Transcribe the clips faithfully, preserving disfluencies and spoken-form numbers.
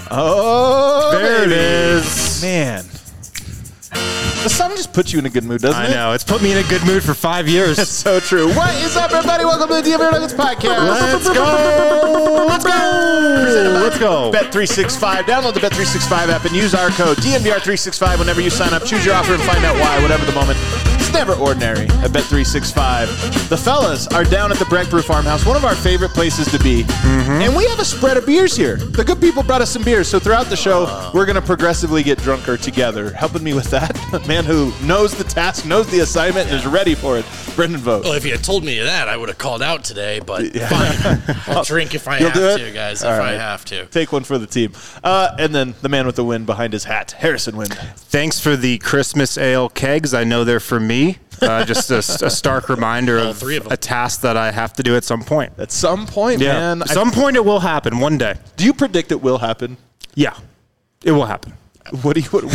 Oh, there baby. it is. Man. The sun just puts you in a good mood, doesn't I it? I know. It's put me in a good mood for five years. That's so true. What is up, everybody? Welcome to the D M V Nuggets podcast. Let's go. Let's go. Let's go. Bet three sixty-five. Download the Bet three sixty-five app and use our code D M V R three sixty-five whenever you sign up. Choose your offer and find out why, whatever the moment. It's never ordinary at Bet three sixty-five. The fellas are down at the Breck Brew Farmhouse, one of our favorite places to be. Mm-hmm. And we have a spread of beers here. The good people brought us some beers. So throughout the show, we're going to progressively get drunker together. Helping me with that, a man who knows the task, knows the assignment, and is ready for it, Brendan Vogt. Well, if you had told me that, I would have called out today, but yeah. Fine. I'll drink if I You'll have do it? to, guys, All if right. I have to. Take one for the team. Uh, and then the man with the win behind his hat, Harrison Wind. Thanks for the Christmas ale kegs. I know they're for me. Uh, just a, a stark reminder All of, three of them. a task that I have to do at some point. At some point, Yeah. man. At some I, point it will happen one day. do you predict it will happen? Yeah. It will happen. What do you what,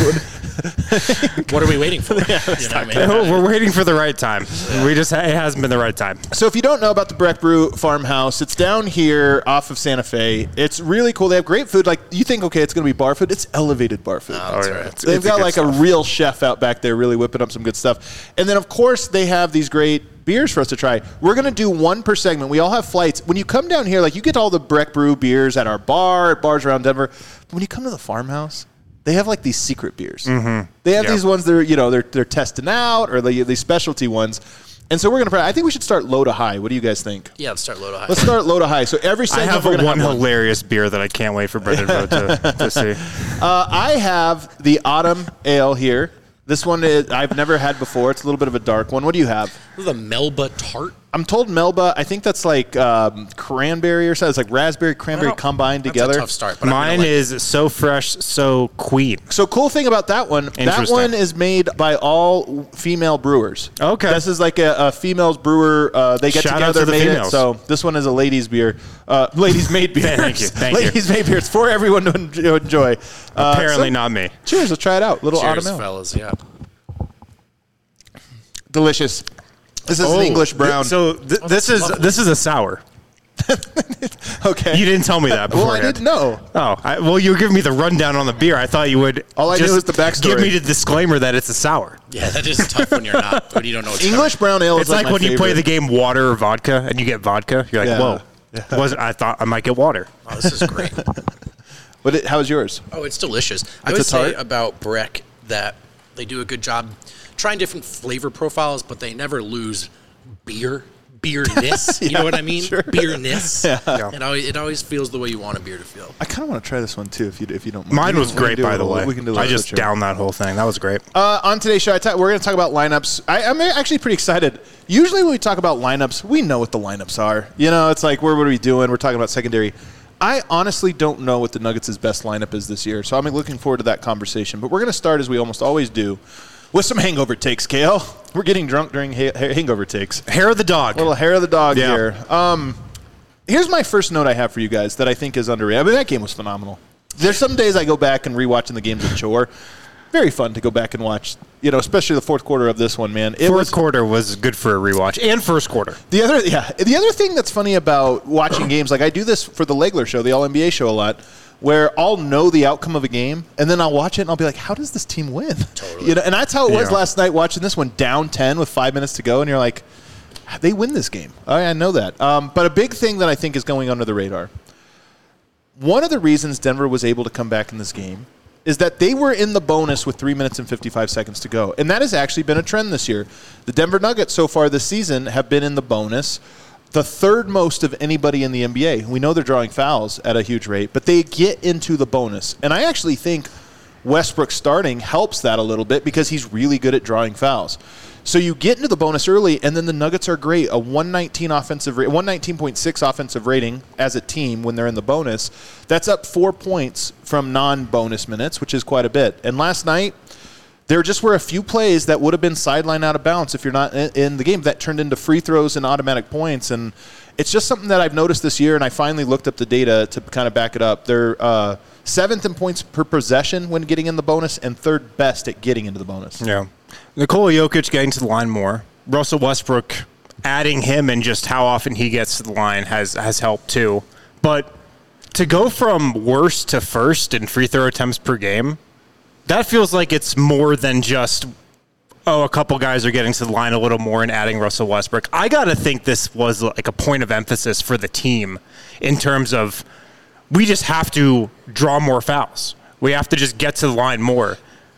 what? What are we waiting for? yeah, you know what I mean? We're waiting for the right time. We just it hasn't been the right time. So if you don't know about the Breck Brew Farmhouse, it's down here off of Santa Fe. It's really cool. They have great food. Like you think, okay, it's going to be bar food. It's elevated bar food. Oh, that's Oh, yeah. right. It's- They've it's got good like stuff. a real chef out back there really whipping up some good stuff. And then, of course, they have these great beers for us to try. We're going to do one per segment. We all have flights. When you come down here, like you get all the Breck Brew beers at our bar, at bars around Denver. But when you come to the farmhouse, they have like these secret beers. Mm-hmm. They have Yep. these ones that are, you know, they're, they're testing out or they, these specialty ones. And so we're going to, I think we should start low to high. What do you guys think? Yeah, let's start low to high. Let's start low to high. So every I segment have we're a going to one have one. hilarious beer that I can't wait for Brendan Vogt to, to see. Uh, I have the Autumn Ale here. This one is, I've never had before. It's a little bit of a dark one. What do you have? This is a Melba tart. I'm told Melba, I think that's like um, cranberry or something. It's like raspberry, cranberry Well, combined that's together. a tough start. But I'm Mine gonna like is so fresh, so queen. So cool thing about that one, that Interesting. one is made by all female brewers. Okay. This is like a, a females brewer. Uh, they get Shout out together, to the made it. females. So this one is a ladies beer. Uh, ladies made beer. Thank you, thank you. ladies made beer. It's for everyone to en- to enjoy. Uh, Apparently so- not me. Cheers. Let's try it out. Little Cheers, Autumn Ale. fellas. Yeah. Delicious. This is Oh, an English brown. th- so th- this is this is a sour. okay. You didn't tell me that well, beforehand. I didn't know. Oh, I, well, you were giving me the rundown on the beer. I thought you would. All I knew just was the backstory. Give me the disclaimer that it's a sour. Yeah, that is tough when you're not, when you don't know what's English brown ale It's is like, my when you play favorite. the game water or vodka, and you get vodka. You're like, Yeah. whoa. Yeah. Wasn't I thought I might get water? coming. Oh, this is great. What? It, how is yours? Oh, it's delicious. I It's would a tart? say about Breck that they do a good job trying different flavor profiles, but they never lose beer. Beerness, you know what I mean? Sure. Beerness. Yeah. It always it always feels the way you want a beer to feel. I kind of want to try this one too, if you if you don't mind. Mine We was can- we can great, do a by the little- way. We can do a I little just switch here. downed that whole thing. That was great. Uh, on today's show, I ta- we're going to talk about lineups. I, I'm actually pretty excited. Usually when we talk about lineups, we know what the lineups are. You know, it's like, what are we doing? We're talking about secondary. I honestly don't know what the Nuggets' best lineup is this year, so I'm looking forward to that conversation. But we're going to start, as we almost always do, with some hangover takes, K L. We're getting drunk during ha- hangover takes. Hair of the dog. Little hair of the dog Yeah. here. Um, here's my first note I have for you guys that I think is underrated. I mean, that game was phenomenal. There's some days I go back and rewatching the games a chore. Very fun to go back and watch, you know, especially the fourth quarter of this one, man. It Fourth was quarter was good for a rewatch, and first quarter. the other, yeah. The other thing that's funny about watching games, like I do this for the Legler show, the All N B A show a lot, where I'll know the outcome of a game, and then I'll watch it, and I'll be like, how does this team win? Totally. You know, and that's how it was Yeah. last night watching this one down ten with five minutes to go, and you're like, they win this game. I, I know that. Um, but a big thing that I think is going under the radar, one of the reasons Denver was able to come back in this game is that they were in the bonus with three minutes and fifty-five seconds to go. And that has actually been a trend this year. The Denver Nuggets so far this season have been in the bonus, the third most of anybody in the N B A. We know they're drawing fouls at a huge rate, but they get into the bonus. And I actually think Westbrook starting helps that a little bit because he's really good at drawing fouls. So you get into the bonus early, and then the Nuggets are great. A one nineteen offensive, ra- one nineteen point six offensive rating as a team when they're in the bonus. That's up four points from non-bonus minutes, which is quite a bit. And last night, there just were a few plays that would have been sideline out of bounds if you're not in, in the game that turned into free throws and automatic points. And it's just something that I've noticed this year, and I finally looked up the data to kind of back it up. They're uh, seventh in points per possession when getting in the bonus and third best at getting into the bonus. Yeah. Nikola Jokic getting to the line more. Russell Westbrook adding him and just how often he gets to the line has, has helped too. But to go from worst to first in free throw attempts per game, that feels like it's more than just, oh, a couple guys are getting to the line a little more and adding Russell Westbrook. I got to think this was like a point of emphasis for the team in terms of we just have to draw more fouls. We have to just get to the line more.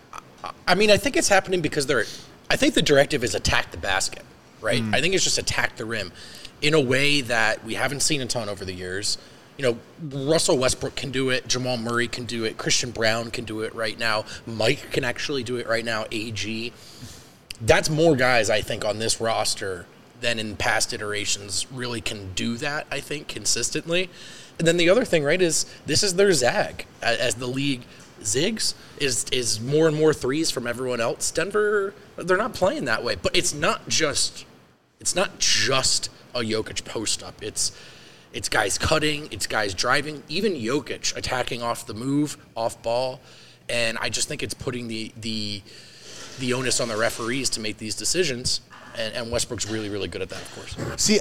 I mean, I think it's happening because they're – I think the directive is attack the basket, right? Mm. I think it's just attack the rim in a way that we haven't seen a ton over the years. You know, Russell Westbrook can do it. Jamal Murray can do it. Christian Brown can do it right now. Mike can actually do it right now. A G. That's more guys, I think, on this roster than in past iterations really can do that, I think, consistently. And then the other thing, right, is this is their zag. As the league zigs, is is more and more threes from everyone else. Denver, they're not playing that way. But it's not just it's not just a Jokic post-up. It's it's guys cutting. It's guys driving. Even Jokic attacking off the move, off ball. And I just think it's putting the the the onus on the referees to make these decisions. And, and Westbrook's really, really good at that, of course. See,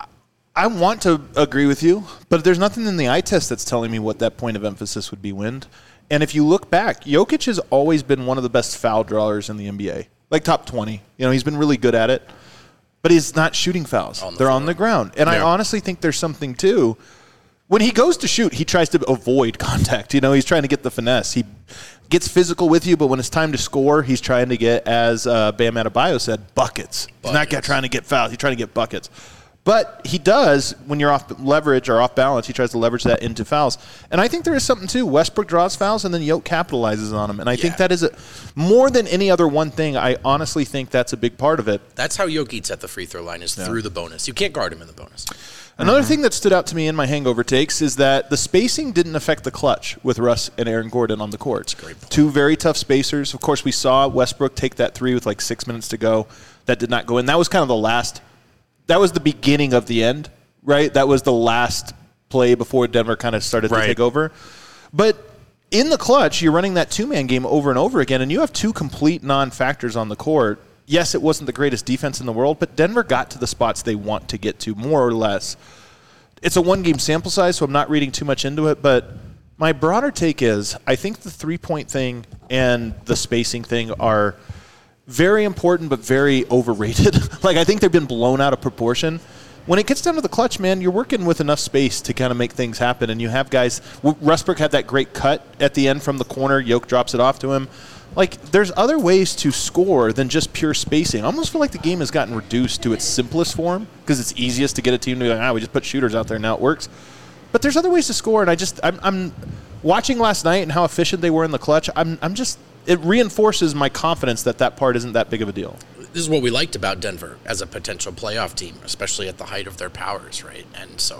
I want to agree with you, but there's nothing in the eye test that's telling me what that point of emphasis would be, Wind. And if you look back, Jokic has always been one of the best foul drawers in the N B A, like top twenty. You know, he's been really good at it, but he's not shooting fouls. On the They're floor. on the ground. And yeah. I honestly think there's something, too. When he goes to shoot, he tries to avoid contact. You know, he's trying to get the finesse. He gets physical with you, but when it's time to score, he's trying to get, as uh, Bam Adebayo said, buckets. buckets. He's not trying to get fouls. He's trying to get buckets. But he does, when you're off leverage or off balance, he tries to leverage that into fouls. And I think there is something, too. Westbrook draws fouls, and then Yoke capitalizes on them. And I yeah. think that is, a, more than any other one thing, I honestly think that's a big part of it. That's how Yoke eats at the free throw line, is yeah. through the bonus. You can't guard him in the bonus. Another mm-hmm. thing that stood out to me in my hangover takes is that the spacing didn't affect the clutch with Russ and Aaron Gordon on the court. Two very tough spacers. Of course, we saw Westbrook take that three with like six minutes to go. That did not go in. That was kind of the last – that was the beginning of the end, right? That was the last play before Denver kind of started right. to take over. But in the clutch, you're running that two-man game over and over again, and you have two complete non-factors on the court. Yes, it wasn't the greatest defense in the world, but Denver got to the spots they want to get to, more or less. It's a one-game sample size, so I'm not reading too much into it, but my broader take is I think the three-point thing and the spacing thing are very important but very overrated. Like, I think they've been blown out of proportion. When it gets down to the clutch, man, you're working with enough space to kind of make things happen, and you have guys – Westbrook had that great cut at the end from the corner. Yoke drops it off to him. Like, there's other ways to score than just pure spacing. I almost feel like the game has gotten reduced to its simplest form because it's easiest to get a team to be like, ah, we just put shooters out there, now it works. But there's other ways to score, and I just, I'm, I'm watching last night and how efficient they were in the clutch. I'm, I'm just, it reinforces my confidence that that part isn't that big of a deal. This is what we liked about Denver as a potential playoff team, especially at the height of their powers, right? And so,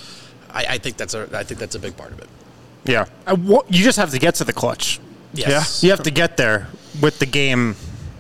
I, I think that's a, I think that's a big part of it. Yeah, I, what, you just have to get to the clutch. Yes. Yeah. You have to get there with the game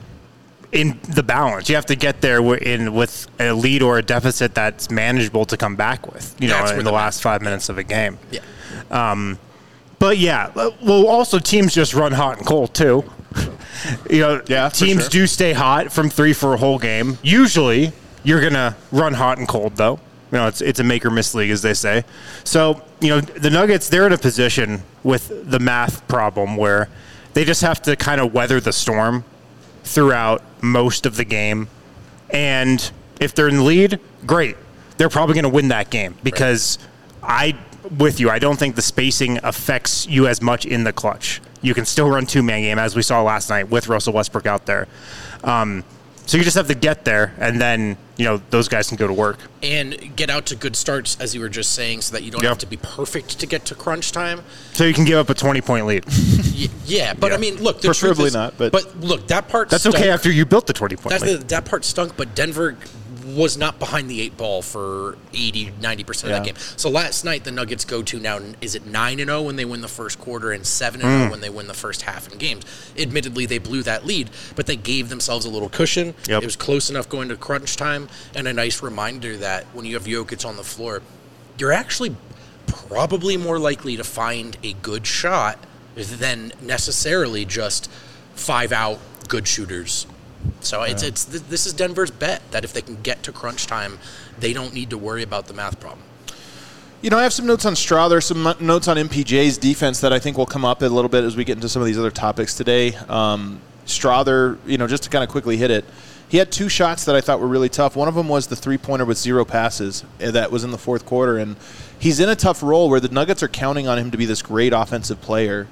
in the balance. You have to get there in with a lead or a deficit that's manageable to come back with, you know, in the last five minutes of a game. Yeah. Um, but, yeah, well, also teams just run hot and cold, too. You know, yeah, teams sure. do stay hot from three for a whole game. Usually you're going to run hot and cold, though. You know, it's it's a make or miss league, as they say. So, you know, the Nuggets, they're in a position with the math problem where they just have to kind of weather the storm throughout most of the game. And if they're in the lead, great. They're probably going to win that game because right. I, with you, I don't think the spacing affects you as much in the clutch. You can still run two-man game, as we saw last night with Russell Westbrook out there. Um, So you just have to get there, and then, you know, those guys can go to work. And get out to good starts, as you were just saying, so that you don't yep. have to be perfect to get to crunch time. So you can give up a twenty-point lead. yeah, but, yeah. I mean, look. The Preferably is, not. But, but, look, that part That's stunk. okay after you built the twenty-point lead. The, that part stunk, but Denver was not behind the eight ball for eighty, ninety percent of yeah. that game. So last night, the Nuggets go to now, is it nine and oh when they win the first quarter and seven and oh mm. when they win the first half in games? Admittedly, they blew that lead, but they gave themselves a little cushion. Yep. It was close enough going to crunch time, and a nice reminder that when you have Jokic on the floor, you're actually probably more likely to find a good shot than necessarily just five out good shooters. So it's yeah. it's this is Denver's bet that if they can get to crunch time, they don't need to worry about the math problem. You know, I have some notes on Straw. There's some notes on M P J's defense that I think will come up a little bit as we get into some of these other topics today. Um, Strother, you know, just to kind of quickly hit it, he had two shots that I thought were really tough. One of them was the three-pointer with zero passes that was in the fourth quarter, and he's in a tough role where the Nuggets are counting on him to be this great offensive player.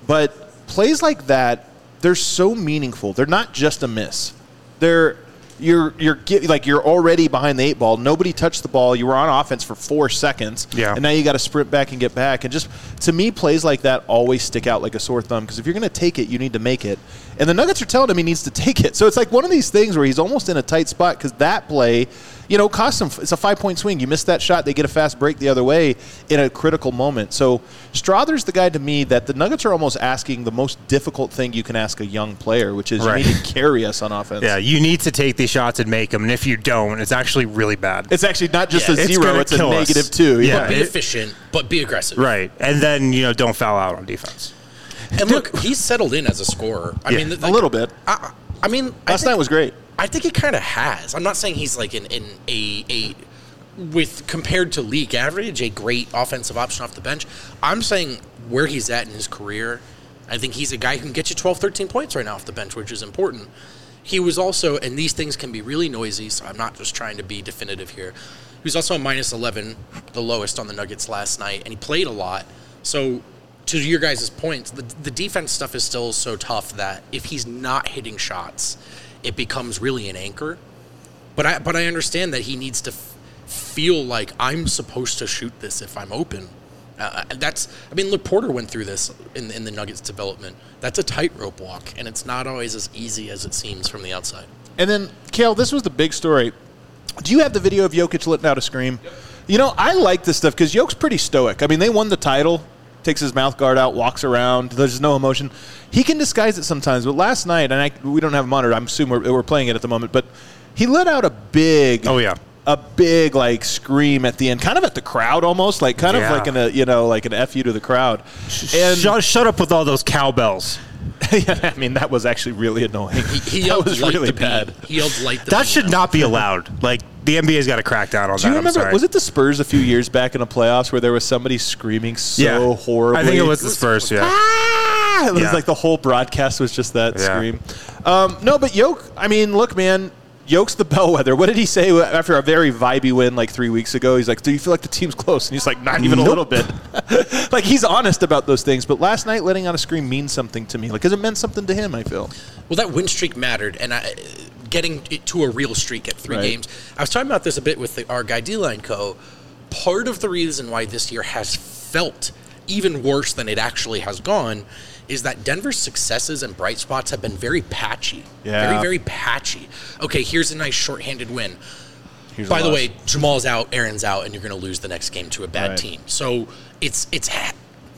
But plays like that, they're so meaningful. They're not just a miss. They're you're you're get, like you're already behind the eight ball. Nobody touched the ball. You were on offense for four seconds, yeah. and now you got to sprint back and get back. And just to me, plays like that always stick out like a sore thumb because if you're going to take it, you need to make it. And the Nuggets are telling him he needs to take it. So it's like one of these things where he's almost in a tight spot because that play, you know, costs him. It's a five-point swing. You miss that shot, they get a fast break the other way in a critical moment. So Strother's the guy to me that the Nuggets are almost asking the most difficult thing you can ask a young player, which is right. you need to carry us on offense. Yeah, you need to take these shots and make them, and if you don't, it's actually really bad. It's actually not just yeah, a zero, it's, it's a negative us. two. Yeah, but be it, efficient, but be aggressive. Right, and then, you know, don't foul out on defense. And look, he's settled in as a scorer. I yeah, mean, like, a little bit. I, I mean, last I think, night was great. I think he kind of has. I'm not saying he's like in, in a a with compared to league average, a great offensive option off the bench. I'm saying where he's at in his career, I think he's a guy who can get you twelve, thirteen points right now off the bench, which is important. He was also, and these things can be really noisy, so I'm not just trying to be definitive here. He was also a minus eleven, the lowest on the Nuggets last night, and he played a lot. So to your guys' points, the, the defense stuff is still so tough that if he's not hitting shots, it becomes really an anchor. But I but I understand that he needs to f- feel like I'm supposed to shoot this if I'm open. Uh, that's I mean, look, Porter went through this in, in the Nuggets development. That's a tightrope walk, and it's not always as easy as it seems from the outside. And then, Kale, this was the big story. Do you have the video of Jokic letting out a scream? Yep. You know, I like this stuff because Jokic's pretty stoic. I mean, they won the title. Takes his mouth guard out, walks around. There's no emotion. He can disguise it sometimes. But last night, and I, we don't have a monitor. I'm assuming we're, we're playing it at the moment. But he let out a big, oh yeah, a big like scream at the end, kind of at the crowd almost, like kind yeah. of like an a, you know like an F you to the crowd. And shut, shut up with all those cowbells. Yeah, I mean that was actually really annoying. He, he that yelled was light really the bad. Beat. He yelled light the That beat. should not be allowed. Like the N B A's got to crack down on Do that. you remember? I'm sorry. Was it the Spurs a few years back in the playoffs where there was somebody screaming so yeah. horribly? I think it was the Spurs. Yeah. Ah! It was yeah. like the whole broadcast was just that yeah. scream. Um, no, but Yoke. I mean, look, man. Yoke's the bellwether. What did he say after a very vibey win like three weeks ago? He's like, do you feel like the team's close? And he's like, not even nope. a little bit. Like, he's honest about those things. But last night, letting out a scream means something to me. Like, because it meant something to him, I feel. Well, that win streak mattered. And I, getting it to a real streak at three right. games. I was talking about this a bit with the, our guy, D-Line Co. Part of the reason why this year has felt even worse than it actually has gone is that Denver's successes and bright spots have been very patchy. Yeah. Very, very patchy. Okay, here's a nice shorthanded win. Here's By the way, Jamal's out, Aaron's out, and you're going to lose the next game to a bad right. team. So it's it's ha-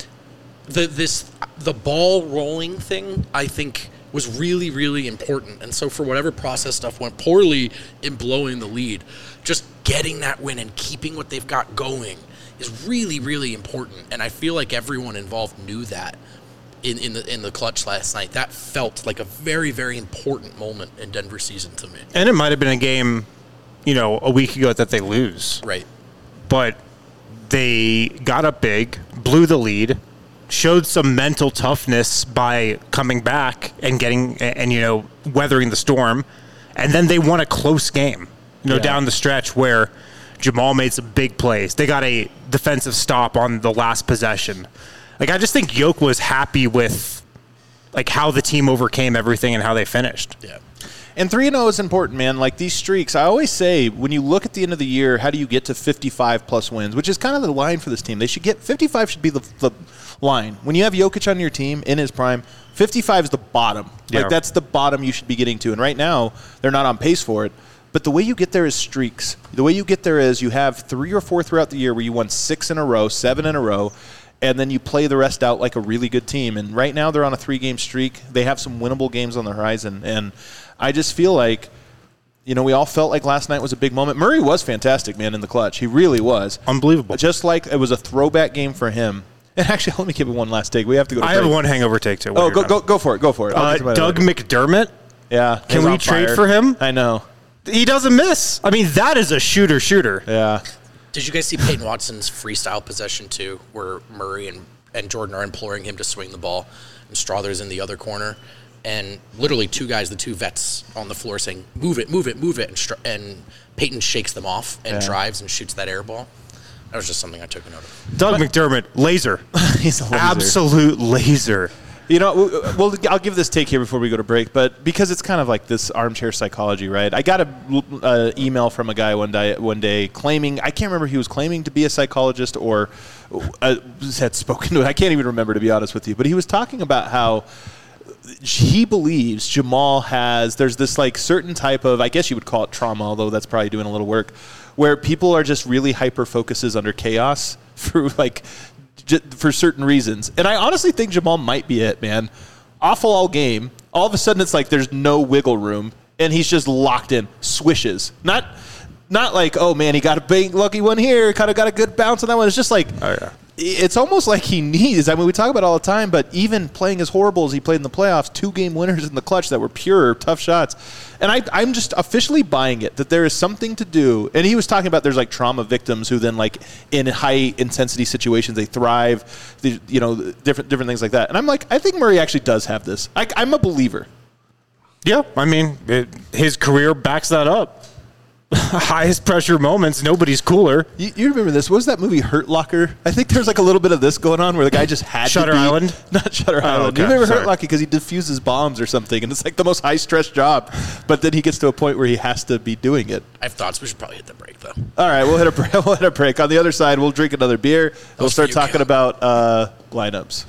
the this the ball rolling thing, I think, was really, really important. And so for whatever process stuff went poorly in blowing the lead, just getting that win and keeping what they've got going is really, really important. And I feel like everyone involved knew that. In, in the in the clutch last night, that felt like a very, very important moment in Denver season to me. And it might have been a game, you know, a week ago that they lose. Right. But they got up big, blew the lead, showed some mental toughness by coming back and getting and, and you know, weathering the storm. And then they won a close game, you know, yeah. down the stretch where Jamal made some big plays. They got a defensive stop on the last possession. Like, I just think Yoke was happy with, like, how the team overcame everything and how they finished. Yeah. And three and oh is important, man. Like, these streaks, I always say, when you look at the end of the year, how do you get to fifty-five plus wins, which is kind of the line for this team. They should get – fifty-five should be the, the line. When you have Jokic on your team in his prime, fifty-five is the bottom. Yeah. Like, that's the bottom you should be getting to. And right now, they're not on pace for it. But the way you get there is streaks. The way you get there is you have three or four throughout the year where you won six in a row, seven in a row, and then you play the rest out like a really good team. And right now they're on a three-game streak. They have some winnable games on the horizon. And I just feel like, you know, we all felt like last night was a big moment. Murray was fantastic, man, in the clutch. He really was. Unbelievable. Just like it was a throwback game for him. And actually, let me give it one last take. We have to go to I break. have one hangover take, too. Oh, go, go go for it. Go for it. Uh, Doug McDermott. Yeah. Can we trade for him? I know. He doesn't miss. I mean, that is a shooter shooter. Yeah. Did you guys see Peyton Watson's freestyle possession too, where Murray and, and Jordan are imploring him to swing the ball, and Strother's in the other corner, and literally two guys, the two vets on the floor saying, move it, move it, move it, and, Str- and Peyton shakes them off and yeah. drives and shoots that air ball. That was just something I took a note of. Doug but, McDermott, laser. He's a laser. Absolute laser. You know, well, I'll give this take here before we go to break, but because it's kind of like this armchair psychology, right? I got a uh, email from a guy one day, one day claiming, I can't remember if he was claiming to be a psychologist or uh, had spoken to it. I can't even remember, to be honest with you. But he was talking about how he believes Jamal has, there's this like certain type of, I guess you would call it trauma, although that's probably doing a little work, where people are just really hyper-focuses under chaos for like, for certain reasons. And I honestly think Jamal might be it, man. Awful all game. All of a sudden it's like there's no wiggle room and he's just locked in. Swishes. Not not like, oh man, he got a big lucky one here, kind of got a good bounce on that one. It's just like, oh, yeah. It's almost like he needs, I mean, we talk about it all the time, but even playing as horrible as he played in the playoffs, two game winners in the clutch that were pure, tough shots. And I, I'm just officially buying it, that there is something to do. And he was talking about there's like trauma victims who then like in high intensity situations, they thrive, they, you know, different different things like that. And I'm like, I think Murray actually does have this. I, I'm a believer. Yeah, I mean, it, his career backs that up. Highest pressure moments, nobody's cooler. You, you remember this? What was that movie, Hurt Locker? I think there's like a little bit of this going on where the guy just had Shutter to be. Island? Not Shutter oh, Island. Okay. You remember Sorry. Hurt Locker because he defuses bombs or something, and it's like the most high-stress job. But then he gets to a point where he has to be doing it. I have thoughts. We should probably hit the break, though. All right, we'll hit a break. We'll hit a break. On the other side, we'll drink another beer. And we'll start talking count. about uh, lineups.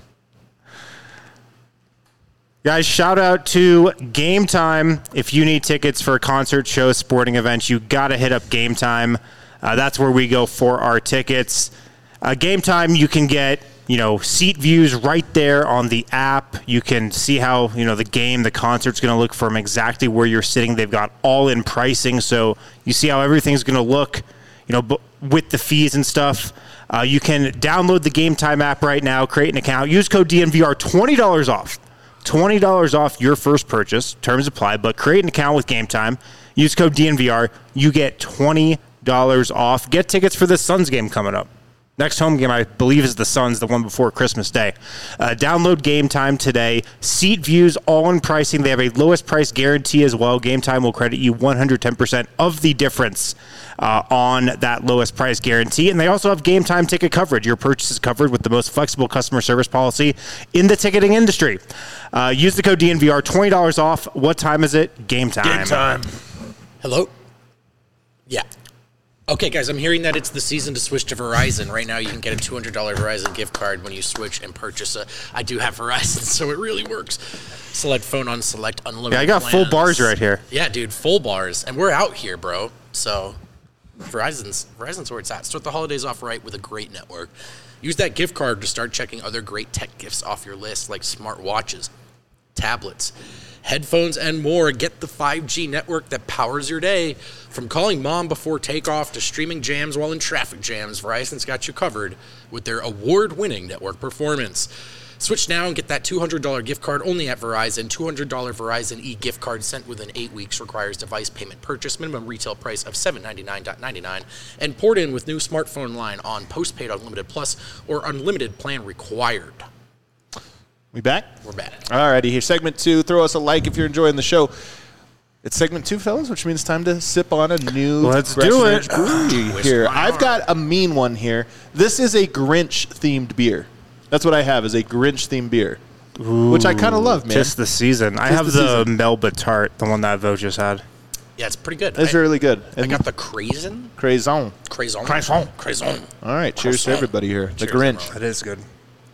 Guys, shout out to Game Time. If you need tickets for concert shows, sporting events, you got to hit up Game Time. Uh, that's where we go for our tickets. Uh, Game Time, you can get, you know, seat views right there on the app. You can see how, you know, the game, the concert's going to look from exactly where you're sitting. They've got all-in pricing, so you see how everything's going to look, you know, b- with the fees and stuff. Uh, you can download the Game Time app right now, create an account, use code D N V R, twenty dollars off. twenty dollars off your first purchase. Terms apply, but create an account with Game Time. Use code D N V R. You get twenty dollars off. Get tickets for the Suns game coming up. Next home game, I believe, is the Suns, the one before Christmas Day. Uh, download Game Time today. Seat views, all in pricing. They have a lowest price guarantee as well. Game Time will credit you one hundred ten percent of the difference uh, on that lowest price guarantee. And they also have Game Time ticket coverage. Your purchase is covered with the most flexible customer service policy in the ticketing industry. Uh, use the code D N V R, twenty dollars off. What time is it? Game Time. Game Time. Hello? Yeah. Okay, guys, I'm hearing that it's the season to switch to Verizon. Right now, you can get a two hundred dollars Verizon gift card when you switch and purchase a... I do have Verizon, so it really works. Select phone on select unlimited Yeah, I got plans. full bars right here. Yeah, dude, full bars. And we're out here, bro. So Verizon's, Verizon's where it's at. Start the holidays off right with a great network. Use that gift card to start checking other great tech gifts off your list, like smart watches, tablets, headphones, and more. Get the five G network that powers your day. From calling mom before takeoff to streaming jams while in traffic jams, Verizon's got you covered with their award-winning network performance. Switch now and get that two hundred dollars gift card only at Verizon. two hundred dollars Verizon e-gift card sent within eight weeks. Requires device payment purchase. Minimum retail price of seven hundred ninety-nine ninety-nine. And port in with new smartphone line on postpaid Unlimited Plus or unlimited plan required. We back? We're back. All righty, here's segment two. Throw us a like if you're enjoying the show. It's segment two, fellas, which means time to sip on a new Let's do it. brewery here. I've got a mean one here. This is a Grinch-themed beer. That's what I have, is a Grinch-themed beer, Ooh, which I kind of love, man. Just the season. Just I have the, the Melba Tart, the one that Vo just had. Yeah, it's pretty good. It's I, really good. I got the Craison. Craison. Craison. Craison. Craison. All right, cheers to everybody here. The Cheers, Grinch. everyone. It is good.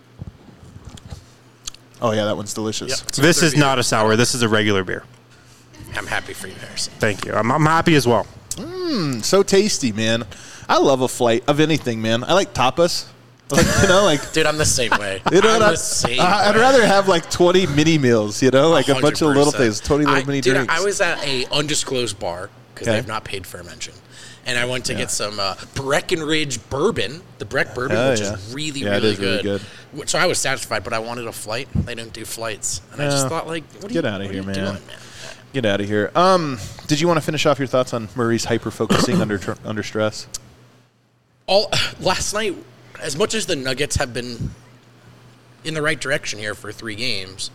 Oh, yeah, that one's delicious. Yep. This is beer. Not a sour. This is a regular beer. I'm happy for you, Harrison. Thank you. I'm, I'm happy as well. Mmm, so tasty, man. I love a flight of anything, man. I like tapas. Like, you know, like dude, I'm the same way. You know, I'm I, the same. I, I'd way. rather have like twenty mini meals, you know, like one hundred percent. A bunch of little things, twenty little I, mini dude, drinks. I was at a undisclosed bar because Okay. they have not paid for a mention, and I went to Yeah. get some uh, Breckenridge bourbon, the Breck bourbon, Oh, which yeah. is really, Yeah, it really is really good. good. So I was satisfied, but I wanted a flight. They didn't do flights, and I just Yeah. thought, like, what are Get you, outta what here, are you man. doing, man? Get out of here. Um, did you want to finish off your thoughts on Murray's hyper focusing under tr- under stress? all last night, as much as the Nuggets have been in the right direction here for three games,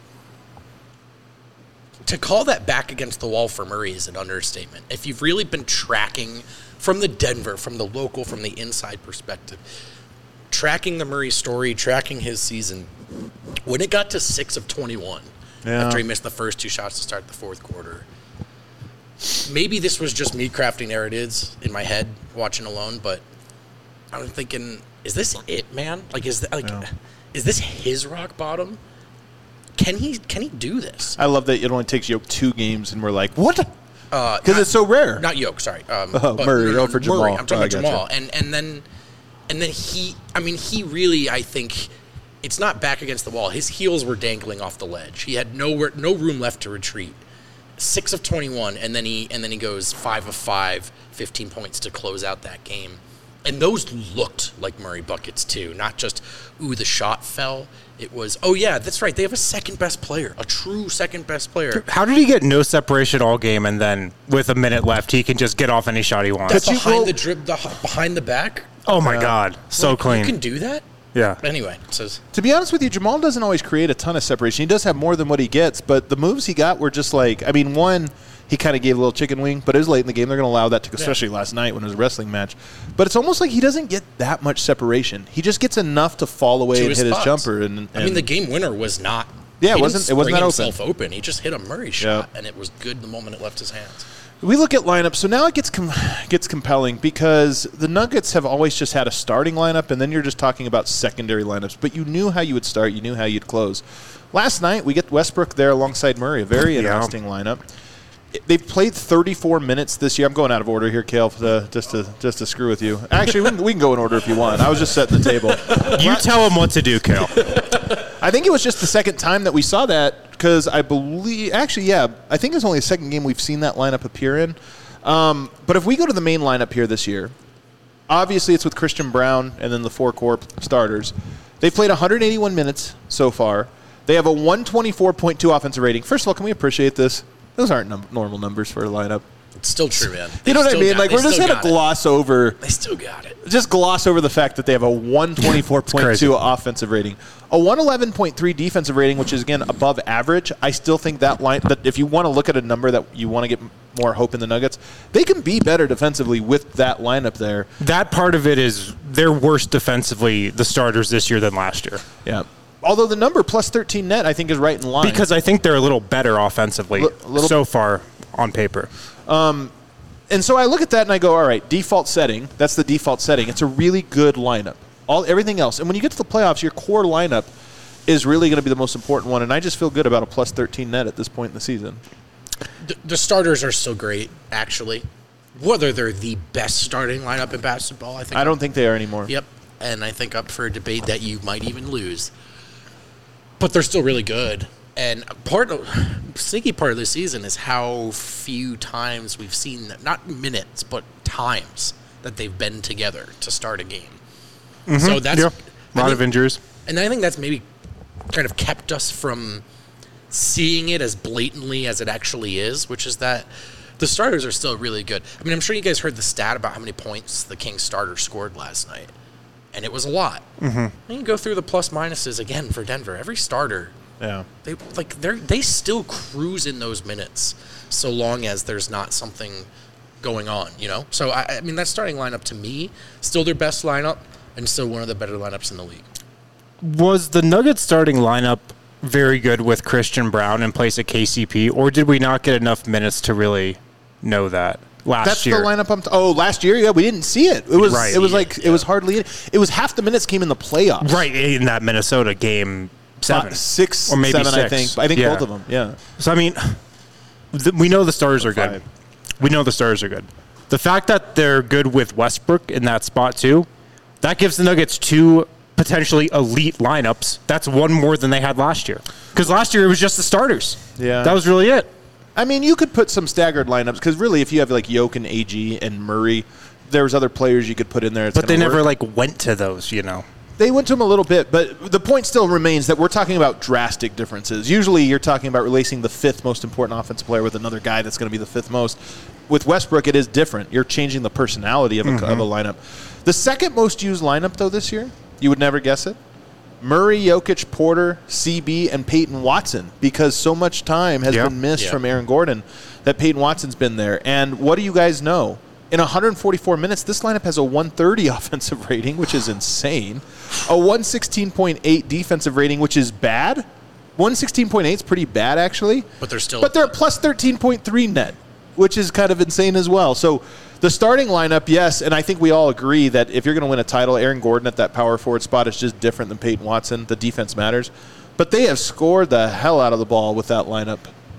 to call that back against the wall for Murray is an understatement. If you've really been tracking from the Denver, from the local, from the inside perspective, tracking the Murray story, tracking his season, when it got to six of twenty-one, yeah. after he missed the first two shots to start the fourth quarter, maybe this was just me crafting narratives in my head, watching alone, but I'm thinking, is this it, man? Like, is that, like, yeah. is this his rock bottom? Can he can he do this? I love that it only takes Yoke two games, and we're like, what? Because uh, it's so rare. Not Yoke, sorry. Um, oh, Murray. Oh, for Jamal. Murray. I'm talking oh, about Jamal. And and then and then he. I mean, he really. I think it's not back against the wall. His heels were dangling off the ledge. He had nowhere, no room left to retreat. Six of twenty-one, and then he and then he goes five of five, fifteen points to close out that game. And those looked like Murray buckets, too. Not just, ooh, the shot fell. It was, oh, yeah, that's right. They have a second-best player, a true second-best player. How did he get no separation all game, and then with a minute left, he can just get off any shot he wants? That's behind roll- the drip, the, behind the back. Oh, my uh, God. So like, clean. You can do that? Yeah. Anyway. So. To be honest with you, Jamal doesn't always create a ton of separation. He does have more than what he gets, but the moves he got were just like, I mean, one, he kind of gave a little chicken wing, but it was late in the game. They're going to allow that, to, especially yeah. last night when it was a wrestling match. But it's almost like he doesn't get that much separation. He just gets enough to fall away to and hit spots. his jumper. And, and I mean, the game winner was not. Yeah, it wasn't. It wasn't that open. Himself open. He just hit a Murray shot, yeah. and it was good the moment it left his hands. We look at lineups, so now it gets com- gets compelling because the Nuggets have always just had a starting lineup, and then you're just talking about secondary lineups. But you knew how you would start, you knew how you'd close. Last night, we get Westbrook there alongside Murray, a very interesting yeah. lineup. They've played thirty-four minutes this year. I'm going out of order here, Kale, to, just to just to screw with you. Actually, we can, we can go in order if you want. I was just setting the table. You tell him what to do, Kale. I think it was just the second time that we saw that because I believe – actually, yeah, I think it's only the second game we've seen that lineup appear in. Um, but if we go to the main lineup here this year, obviously it's with Christian Braun and then the four core starters. They've played one hundred eighty-one minutes so far. They have a one twenty-four point two offensive rating. First of all, can we appreciate this? Those aren't num- normal numbers for a lineup. It's still true, man. They you know what I mean? Like, we're just going to gloss over. They still got it. Just gloss over the fact that they have a one twenty-four point two offensive rating. A one eleven point three defensive rating, which is, again, above average. I still think that line, that if you want to look at a number that you want to get more hope in the Nuggets, they can be better defensively with that lineup there. That part of it is they're worse defensively, the starters this year, than last year. Yeah. Although the number plus thirteen net, I think, is right in line. Because I think they're a little better offensively L- so far on paper. Um, and so I look at that and I go, all right, default setting. That's the default setting. It's a really good lineup. All everything else. And when you get to the playoffs, your core lineup is really going to be the most important one. And I just feel good about a plus thirteen net at this point in the season. The, the starters are still great, actually. Whether they're the best starting lineup in basketball, I think. I don't think they are anymore. Yep. And I think up for a debate that you might even lose. But they're still really good. And part of sneaky part of the season is how few times we've seen that, not minutes, but times that they've been together to start a game. Mm-hmm. So that's yeah. a lot think, of injuries. And I think that's maybe kind of kept us from seeing it as blatantly as it actually is, which is that the starters are still really good. I mean, I'm sure you guys heard the stat about how many points the Kings starter scored last night. And it was a lot. Mm-hmm. You can go through the plus minuses again for Denver. Every starter, yeah, they like they they still cruise in those minutes, so long as there's not something going on, you know. So I, I mean, that starting lineup to me still their best lineup, and still one of the better lineups in the league. Was the Nuggets starting lineup very good with Christian Braun in place of K C P, or did we not get enough minutes to really know that? Last That's year. the lineup. I'm t- oh, last year, yeah, we didn't see it. It was, right. it was like, yeah. it was hardly. It was half the minutes came in the playoffs. Right in that Minnesota game, seven, Five, six, or maybe seven. six. I think. I think yeah. both of them. Yeah. So I mean, th- we know the stars are good. Five. We know the stars are good. The fact that they're good with Westbrook in that spot too, that gives the Nuggets two potentially elite lineups. That's one more than they had last year. Because last year it was just the starters. Yeah. That was really it. I mean, you could put some staggered lineups because really, if you have like Yoke and A G and Murray, there's other players you could put in there. But they never work. like went to those, you know. They went to them a little bit, but the point still remains that we're talking about drastic differences. Usually, you're talking about replacing the fifth most important offensive player with another guy that's going to be the fifth most. with Westbrook, it is different. You're changing the personality of a, mm-hmm. of a lineup. The second most used lineup, though, this year, you would never guess it, Murray, Jokic, Porter, C B, and Peyton Watson, because so much time has yeah. been missed yeah. from Aaron Gordon that Peyton Watson's been there. And what do you guys know? In one hundred forty-four minutes, this lineup has a one thirty offensive rating, which is insane. A one sixteen point eight defensive rating, which is bad. one sixteen point eight is pretty bad, actually. But they're still... But they're at plus thirteen point three net, which is kind of insane as well. So the starting lineup, yes, and I think we all agree that if you're going to win a title, Aaron Gordon at that power forward spot is just different than Peyton Watson. The defense matters. But they have scored the hell out of the ball with that lineup.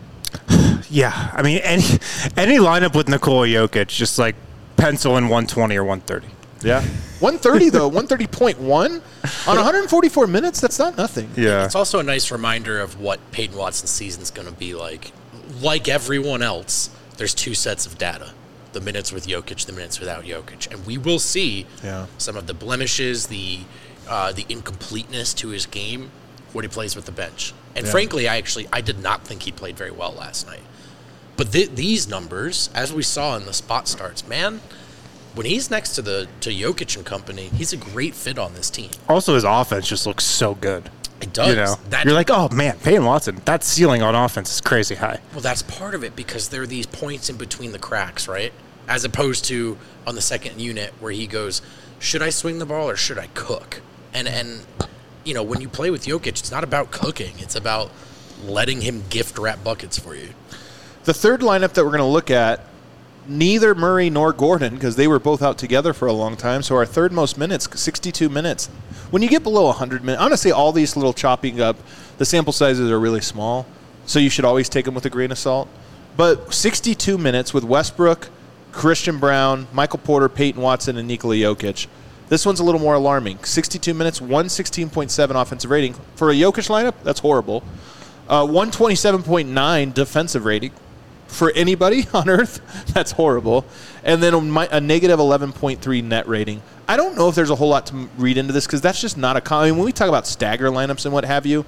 Yeah, I mean, any any lineup with Nikola Jokic, just like pencil in one twenty or one thirty. Yeah. one thirty, though, one thirty point one on one hundred forty-four minutes, that's not nothing. Yeah. It's also a nice reminder of what Peyton Watson's season's going to be like. Like everyone else, there's two sets of data. The minutes with Jokic, the minutes without Jokic. And we will see yeah. some of the blemishes, the uh, the incompleteness to his game when he plays with the bench. And yeah. frankly, I actually I did not think he played very well last night. But th- these numbers, as we saw in the spot starts, man, when he's next to the to Jokic and company, he's a great fit on this team. Also, his offense just looks so good. It does. You know, that, you're like, oh man, Peyton Watson, that ceiling on offense is crazy high. Well, that's part of it because there are these points in between the cracks, right? As opposed to on the second unit where he goes, should I swing the ball or should I cook? And and you know, when you play with Jokic, it's not about cooking; it's about letting him gift wrap buckets for you. The third lineup that we're going to look at, neither Murray nor Gordon, because they were both out together for a long time, so our third most minutes, sixty-two minutes. When you get below one hundred minutes, honestly, all these little chopping up, the sample sizes are really small, so you should always take them with a grain of salt. But sixty-two minutes with Westbrook, Christian Brown, Michael Porter, Peyton Watson, and Nikola Jokic. This one's a little more alarming. sixty-two minutes, one sixteen point seven offensive rating. For a Jokic lineup, that's horrible. Uh, one twenty-seven point nine defensive rating. For anybody on earth, that's horrible. And then a, a negative eleven point three net rating. I don't know if there's a whole lot to read into this because that's just not a common. I mean, when we talk about stagger lineups and what have you,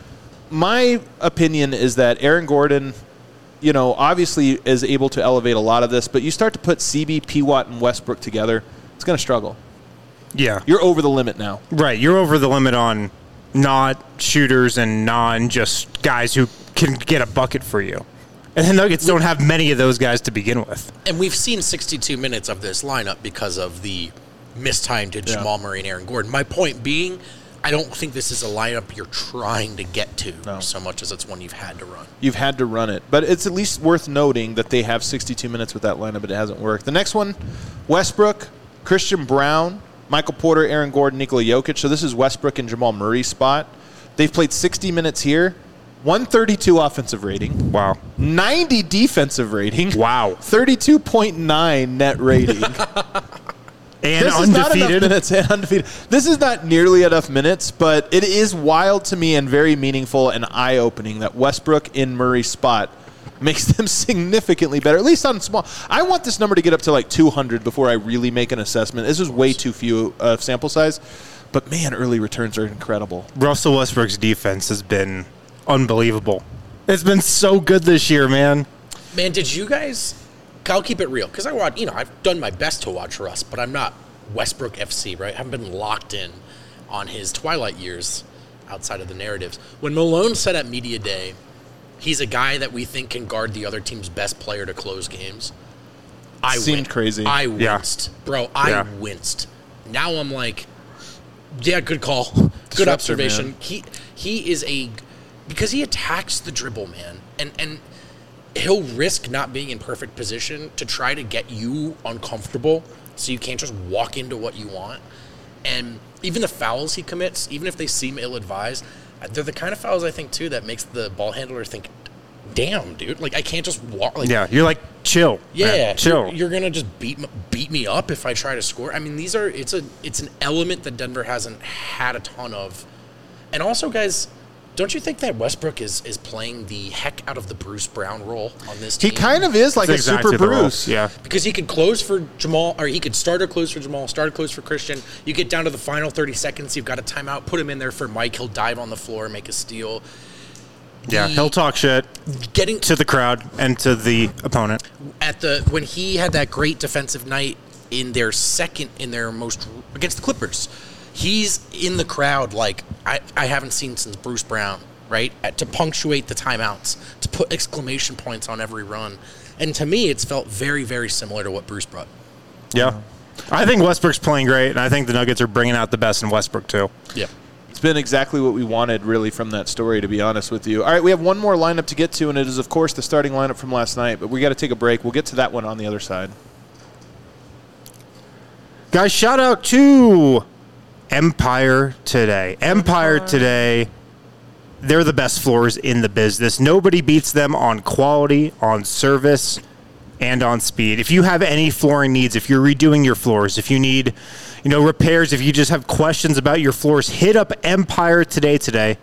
my opinion is that Aaron Gordon, you know, obviously is able to elevate a lot of this, but you start to put C B, P. Watt, and Westbrook together, it's going to struggle. Yeah. You're over the limit now. Right. You're over the limit on not shooters and non just guys who can get a bucket for you. And the Nuggets don't have many of those guys to begin with. And we've seen sixty-two minutes of this lineup because of the mistime to Jamal yeah. Murray and Aaron Gordon. My point being, I don't think this is a lineup you're trying to get to no. so much as it's one you've had to run. You've had to run it. But it's at least worth noting that they have sixty-two minutes with that lineup, but it hasn't worked. The next one, Westbrook, Christian Brown, Michael Porter, Aaron Gordon, Nikola Jokic. So this is Westbrook and Jamal Murray's spot. They've played sixty minutes here. one thirty-two offensive rating. Wow. ninety defensive rating. Wow. thirty-two point nine net rating. And this undefeated. Is not enough minutes and undefeated. This is not nearly enough minutes, but it is wild to me and very meaningful and eye-opening that Westbrook in Murray's spot makes them significantly better, at least on small. I want this number to get up to like two hundred before I really make an assessment. This is way too few uh, sample size, but man, early returns are incredible. Russell Westbrook's defense has been unbelievable. It's been so good this year, man. Man, did you guys... I'll keep it real, because I watch, you know, I've done my best to watch Russ, but I'm not Westbrook F C, right? I haven't been locked in on his twilight years outside of the narratives. When Malone said at Media Day, he's a guy that we think can guard the other team's best player to close games, I seemed win- crazy. I winced. Yeah. Bro, I yeah. winced. Now I'm like, yeah, good call. Good observation. Man. He he is a... Because he attacks the dribble, man. And and... he'll risk not being in perfect position to try to get you uncomfortable so you can't just walk into what you want. And even the fouls he commits, even if they seem ill-advised, they're the kind of fouls, I think, too, that makes the ball handler think, damn, dude, like, I can't just walk. Like, yeah, you're like, chill. Yeah, man, chill. You're, you're going to just beat beat me up if I try to score. I mean, these are it's a it's an element that Denver hasn't had a ton of. And also, guys... Don't you think that Westbrook is, is playing the heck out of the Bruce Brown role on this team? He kind of is like That's a exactly super Bruce. Yeah. Because he could close for Jamal, or he could start or close for Jamal, start or close for Christian. You get down to the final thirty seconds, you've got a timeout, put him in there for Mike. He'll dive on the floor, make a steal. Yeah, he'll talk shit getting to the crowd and to the opponent. At the when he had that great defensive night in their second, in their most, against the Clippers, he's in the crowd like I, I haven't seen since Bruce Brown, right? At, to punctuate the timeouts, to put exclamation points on every run. And to me, it's felt very, very similar to what Bruce brought. Yeah. I think Westbrook's playing great, and I think the Nuggets are bringing out the best in Westbrook, too. Yeah. It's been exactly what we wanted, really, from that story, to be honest with you. All right, we have one more lineup to get to, and it is, of course, the starting lineup from last night, but we got to take a break. We'll get to that one on the other side. Guys, shout out to Empire Today. Empire Today, they're the best floors in the business. Nobody beats them on quality, on service, and on speed. If you have any flooring needs, if you're redoing your floors, if you need, you know, repairs, if you just have questions about your floors, hit up Empire Today today.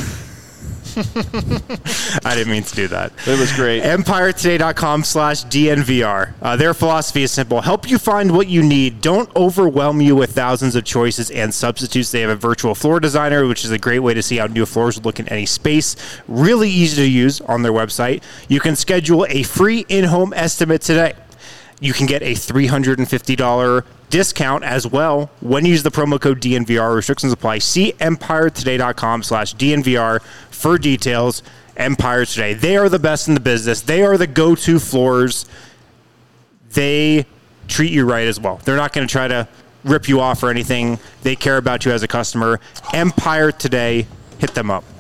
I didn't mean to do that. It was great. Empire Today dot com slash D N V R. Uh, their philosophy is simple. Help you find what you need. Don't overwhelm you with thousands of choices and substitutes. They have a virtual floor designer, which is a great way to see how new floors look in any space. Really easy to use on their website. You can schedule a free in-home estimate today. You can get a three hundred fifty dollars discount as well when you use the promo code D N V R. Restrictions apply. See Empire Today dot com slash D N V R for details. Empire Today. They are the best in the business. They are the go-to floors. They treat you right as well. They're not going to try to rip you off or anything. They care about you as a customer. Empire Today. Hit them up.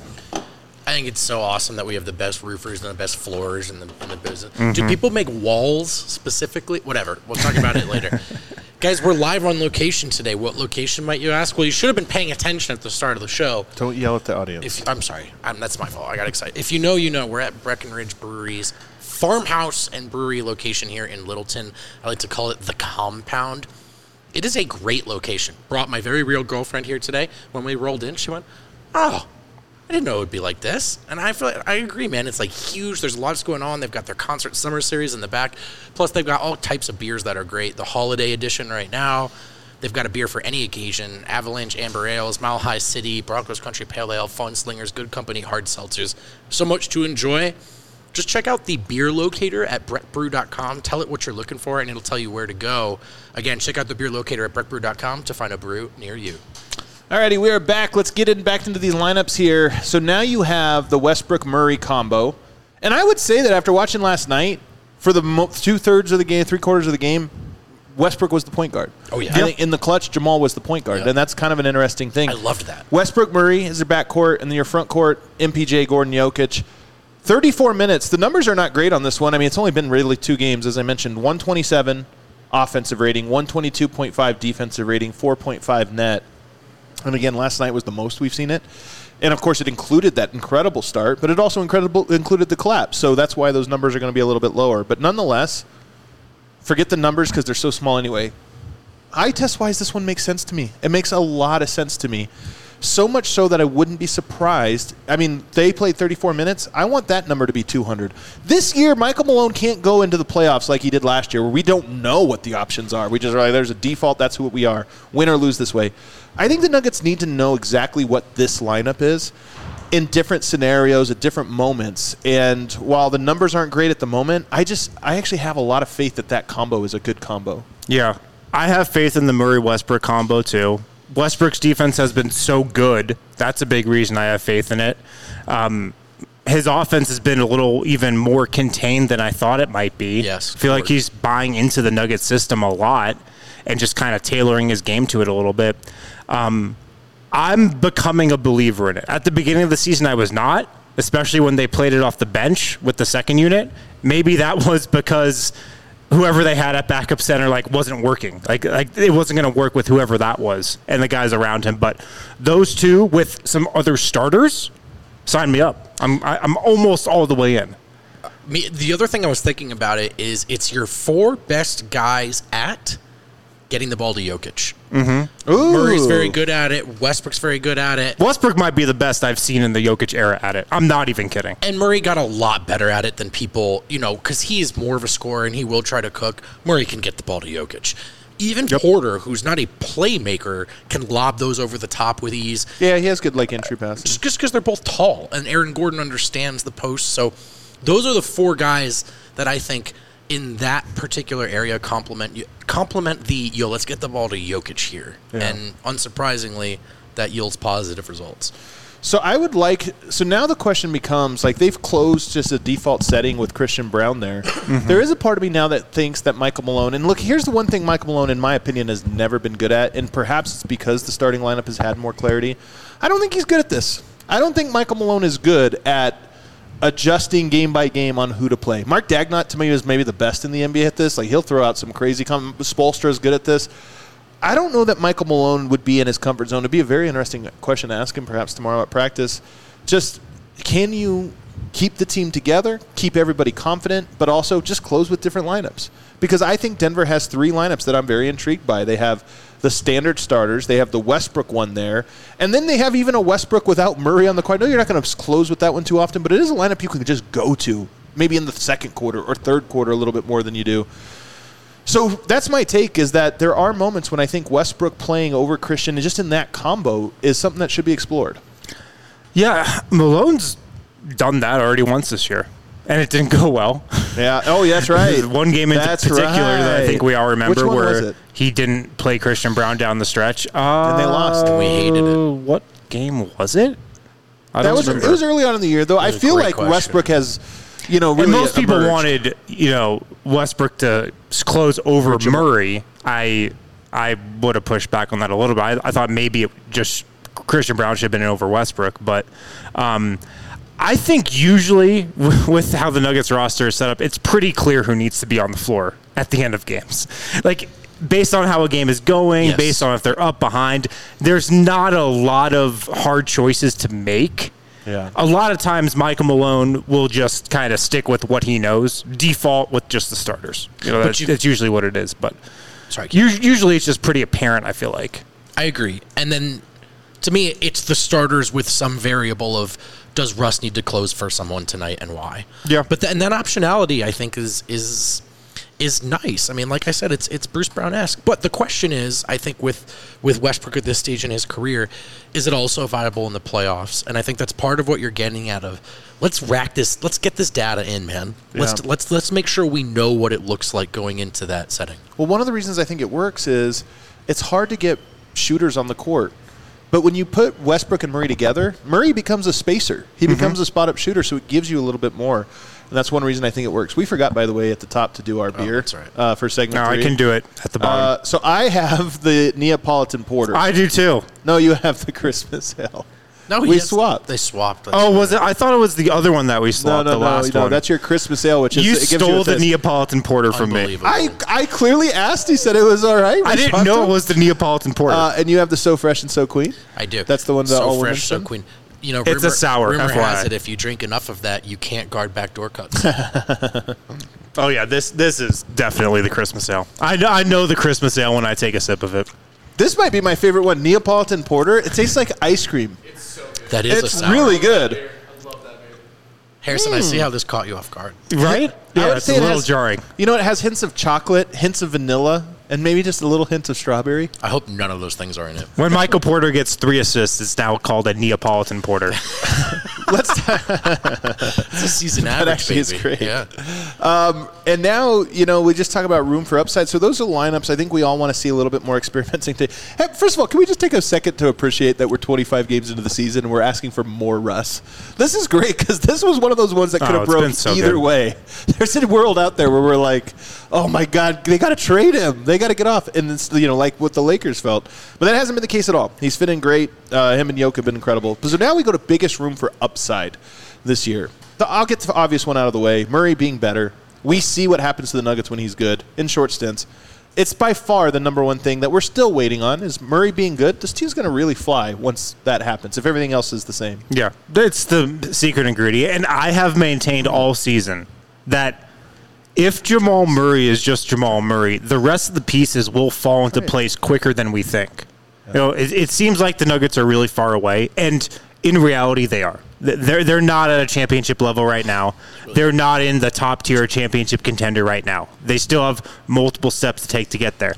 I think it's so awesome that we have the best roofers and the best floors in the, in the business. Mm-hmm. Do people make walls specifically? Whatever. We'll talk about it later. Guys, we're live on location today. What location, might you ask? Well, you should have been paying attention at the start of the show. Don't yell at the audience. If, I'm sorry. I'm, that's my fault. I got excited. If you know, you know. We're at Breckenridge Brewery's farmhouse and brewery location here in Littleton. I like to call it the Compound. It is a great location. Brought my very real girlfriend here today. When we rolled in, she went, oh, I didn't know it would be like this. And I feel like, I agree, man. It's like huge. There's lots going on. They've got their concert summer series in the back. Plus, they've got all types of beers that are great. The holiday edition right now. They've got a beer for any occasion. Avalanche Amber Ales, Mile High City, Broncos Country Pale Ale, Fun Slingers, Good Company, Hard Seltzers. So much to enjoy. Just check out the beer locator at brett brew dot com. Tell it what you're looking for, and it'll tell you where to go. Again, check out the beer locator at brett brew dot com to find a brew near you. Alrighty, we are back. Let's get in back into these lineups here. So now you have the Westbrook-Murray combo. And I would say that after watching last night, for the mo- two-thirds of the game, three-quarters of the game, Westbrook was the point guard. Oh, yeah. I think in the clutch, Jamal was the point guard. Yep. And that's kind of an interesting thing. I loved that. Westbrook-Murray is your backcourt, and then your front court, M P J, Gordon, Jokic. thirty-four minutes. The numbers are not great on this one. I mean, it's only been really two games. As I mentioned, one twenty-seven offensive rating, one twenty-two point five defensive rating, four point five net. And again, last night was the most we've seen it. And, of course, it included that incredible start, but it also incredible included the collapse. So that's why those numbers are going to be a little bit lower. But nonetheless, forget the numbers because they're so small anyway. Eye test-wise, this one makes sense to me. It makes a lot of sense to me. So much so that I wouldn't be surprised. I mean, they played thirty-four minutes. I want that number to be two hundred. This year, Michael Malone can't go into the playoffs like he did last year, where we don't know what the options are. We just are like, there's a default, that's who we are. Win or lose this way. I think the Nuggets need to know exactly what this lineup is in different scenarios at different moments. And while the numbers aren't great at the moment, I just I actually have a lot of faith that that combo is a good combo. Yeah. I have faith in the Murray-Westbrook combo, too. Westbrook's defense has been so good. That's a big reason I have faith in it. Um, his offense has been a little even more contained than I thought it might be. Yes. I feel like he's buying into the Nuggets system a lot and just kind of tailoring his game to it a little bit. Um, I'm becoming a believer in it. At the beginning of the season, I was not, especially when they played it off the bench with the second unit. Maybe that was because whoever they had at backup center like wasn't working. Like like it wasn't going to work with whoever that was and the guys around him. But those two with some other starters, sign me up. I'm I, I'm almost all the way in. Me, the other thing I was thinking about it is it's your four best guys at getting the ball to Jokic. Mm-hmm. Murray's very good at it. Westbrook's very good at it. Westbrook might be the best I've seen in the Jokic era at it. I'm not even kidding. And Murray got a lot better at it than people, you know, because he is more of a scorer and he will try to cook. Murray can get the ball to Jokic. even yep. Porter, who's not a playmaker, can lob those over the top with ease. Yeah, he has good like entry passes. Just because they're both tall, and Aaron Gordon understands the post. So those are the four guys that I think in that particular area complement complement the, yo, let's get the ball to Jokic here. Yeah. And unsurprisingly, that yields positive results. So I would like – so now the question becomes, like, they've closed just a default setting with Christian Braun there. Mm-hmm. There is a part of me now that thinks that Michael Malone – and look, here's the one thing Michael Malone, in my opinion, has never been good at, and perhaps it's because the starting lineup has had more clarity. I don't think he's good at this. I don't think Michael Malone is good at adjusting game by game on who to play. Mark Dagnott, to me, is maybe the best in the N B A at this. Like, he'll throw out some crazy com- – Spoelstra is good at this. I don't know that Michael Malone would be in his comfort zone. It'd be a very interesting question to ask him perhaps tomorrow at practice. Just, can you keep the team together, keep everybody confident, but also just close with different lineups? Because I think Denver has three lineups that I'm very intrigued by. They have the standard starters. They have the Westbrook one there. And then they have even a Westbrook without Murray on the court. I know you're not going to close with that one too often, but it is a lineup you can just go to, maybe in the second quarter or third quarter a little bit more than you do. So that's my take, is that there are moments when I think Westbrook playing over Christian and just in that combo is something that should be explored. Yeah, Malone's done that already once this year, and it didn't go well. Yeah. Oh, yeah, that's right. One game in that's particular right. that I think we all remember where he didn't play Christian Braun down the stretch. Uh, and they lost. And we hated it. What game was it? I that was remember. It was early on in the year, though. I feel like question. Westbrook has... You know, really and most people emerged. wanted, you know, Westbrook to close over Murray. I I would have pushed back on that a little bit. I, I thought maybe it just Christian Braun should have been in over Westbrook, but um, I think usually with how the Nuggets roster is set up, it's pretty clear who needs to be on the floor at the end of games. Like, based on how a game is going, yes. based on if they're up behind, there's not a lot of hard choices to make. Yeah. A lot of times Michael Malone will just kind of stick with what he knows, default with just the starters. You know, that's, you, that's usually what it is. But sorry, usually it's just pretty apparent, I feel like. I agree. And then to me, it's the starters with some variable of, does Russ need to close for someone tonight and why? Yeah. But the, and that optionality, I think, is is is nice. I mean, like I said, it's it's Bruce Brown-esque. But the question is, I think with with Westbrook at this stage in his career, is it also viable in the playoffs? And I think that's part of what you're getting out of. Let's rack this. Let's get this data in, man. Let's yeah. let's let's make sure we know what it looks like going into that setting. Well, one of the reasons I think it works is it's hard to get shooters on the court. But when you put Westbrook and Murray together, Murray becomes a spacer. He mm-hmm. becomes a spot-up shooter, so it gives you a little bit more. And that's one reason I think it works. We forgot, by the way, at the top to do our beer oh, that's right. uh, for segment no, three. I can do it at the bottom. Uh, so I have the Neapolitan Porter. I do, too. No, you have the Christmas Ale. No, we has, swapped. They swapped. Oh, was it? I thought it was the other one that we swapped. No, no, the last no, no. one. That's your Christmas ale, which is you it gives stole you the Neapolitan Porter from me. I I clearly asked. He said it was all right. I didn't know it was the Neapolitan Porter. Uh, and you have the So Fresh and So Queen. I do. That's the one that So all Fresh, So Queen. You know, it's rumor, a sour. Rumor F Y I. has it if you drink enough of that, you can't guard backdoor cuts. Oh yeah, this this is definitely the Christmas ale. I know, I know the Christmas ale when I take a sip of it. This might be my favorite one, Neapolitan Porter. It tastes like ice cream. It's so good. That is it's a sour. really good. I love that beer. Harrison, mm. I see how this caught you off guard. Right? Yeah, yeah it's a it little has, jarring. You know, it has hints of chocolate, hints of vanilla, and maybe just a little hint of strawberry. I hope none of those things are in it. When Michael Porter gets three assists, it's now called a Neapolitan Porter. Let's. It's a season average. That actually baby. is great. Yeah. Um, and now, you know, we just talk about room for upside. So those are lineups I think we all want to see a little bit more experimenting. To, hey, first of all, can we just take a second to appreciate that we're twenty-five games into the season and we're asking for more Russ? This is great because this was one of those ones that could have oh, broke so either good. way. There's a world out there where we're like, oh my God, they got to trade him. They got to get off. And it's, you know, like what the Lakers felt. But that hasn't been the case at all. He's fitting great. Uh, him and Jokic have been incredible. So now we go to biggest room for upside this year. The, I'll get the obvious one out of the way. Murray being better. We see what happens to the Nuggets when he's good in short stints. It's by far the number one thing that we're still waiting on is Murray being good. This team's going to really fly once that happens, if everything else is the same. Yeah, it's the secret ingredient. And I have maintained all season that if Jamal Murray is just Jamal Murray, the rest of the pieces will fall into right. place quicker than we think. Yeah. You know, it, it seems like the Nuggets are really far away, and in reality, they are. They're they're not at a championship level right now. They're not in the top tier championship contender right now. They still have multiple steps to take to get there.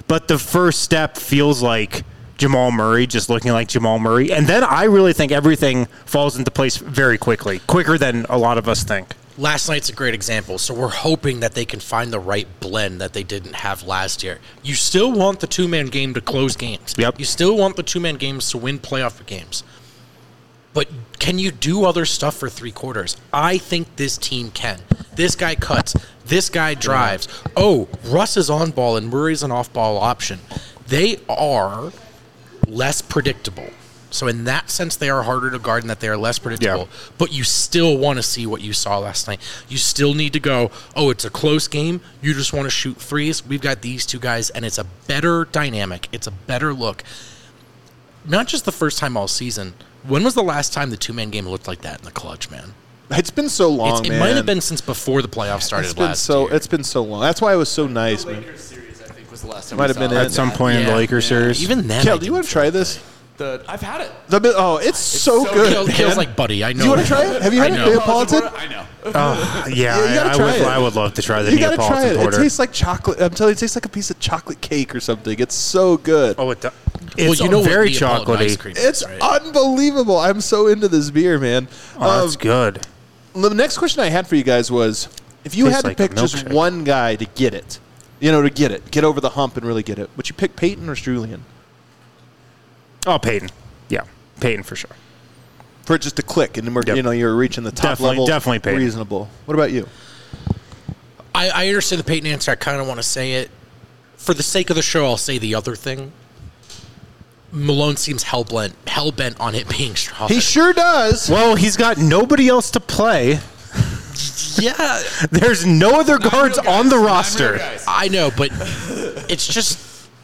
but the first step feels like Jamal Murray just looking like Jamal Murray. And then I really think everything falls into place very quickly, quicker than a lot of us think. Last night's a great example. So we're hoping that they can find the right blend that they didn't have last year. You still want the two-man game to close games. Yep. You still want the two-man games to win playoff games. But can you do other stuff for three quarters? I think this team can. This guy cuts. This guy drives. Oh, Russ is on ball and Murray's an off-ball option. They are less predictable. So in that sense, they are harder to guard and that they are less predictable. Yeah. But you still want to see what you saw last night. You still need to go, oh, it's a close game. You just want to shoot threes. We've got these two guys, and it's a better dynamic. It's a better look. Not just the first time all season. When was the last time the two-man game looked like that in the clutch, man? It's been so long, it's, it man. might have been since before the playoffs started it's been last so, year. It's been so long. That's why it was so nice, the man. Lakers series, I think, was the last time Might we have been saw it. At some point Yeah. in the Lakers Yeah. series. Even then, Kel, I do you want to try this? The, I've had it. The, oh, it's, so, so good. Kale, man. Kale's like, buddy, I know. Do you want to try it? Have you had I a know. Neapolitan? I know. Oh, yeah, Yeah, you gotta I, I try would. it. I would love to try the You gotta try Neapolitan it. porter. It tastes like chocolate. I'm telling you, it tastes like a piece of chocolate cake or something. It's so good. oh, it does. Well, It's you know very what Neapolitan ice chocolatey. cream It's is, right? unbelievable. I'm so into this beer, man. Oh, that's Um, good. The next question I had for you guys was, if you Tastes had to like a pick just milkshake. one guy to get it, you know, to get it, get over the hump and really get it, would you pick Peyton or Julian? Oh, Peyton. Yeah, Peyton for sure. For it just to click, and then we're, Yep. you know, you're reaching the top Definitely- level. definitely Peyton. Reasonable. What about you? I, I understand the Peyton answer. I kind of want to say it. For the sake of the show, I'll say the other thing. Malone seems hell-bent, hell-bent on it being Strawberry. He sure does. Well, he's got nobody else to play. Yeah, There's no other Nine guards real guys. on the Nine roster. real guys. I know, but it's just...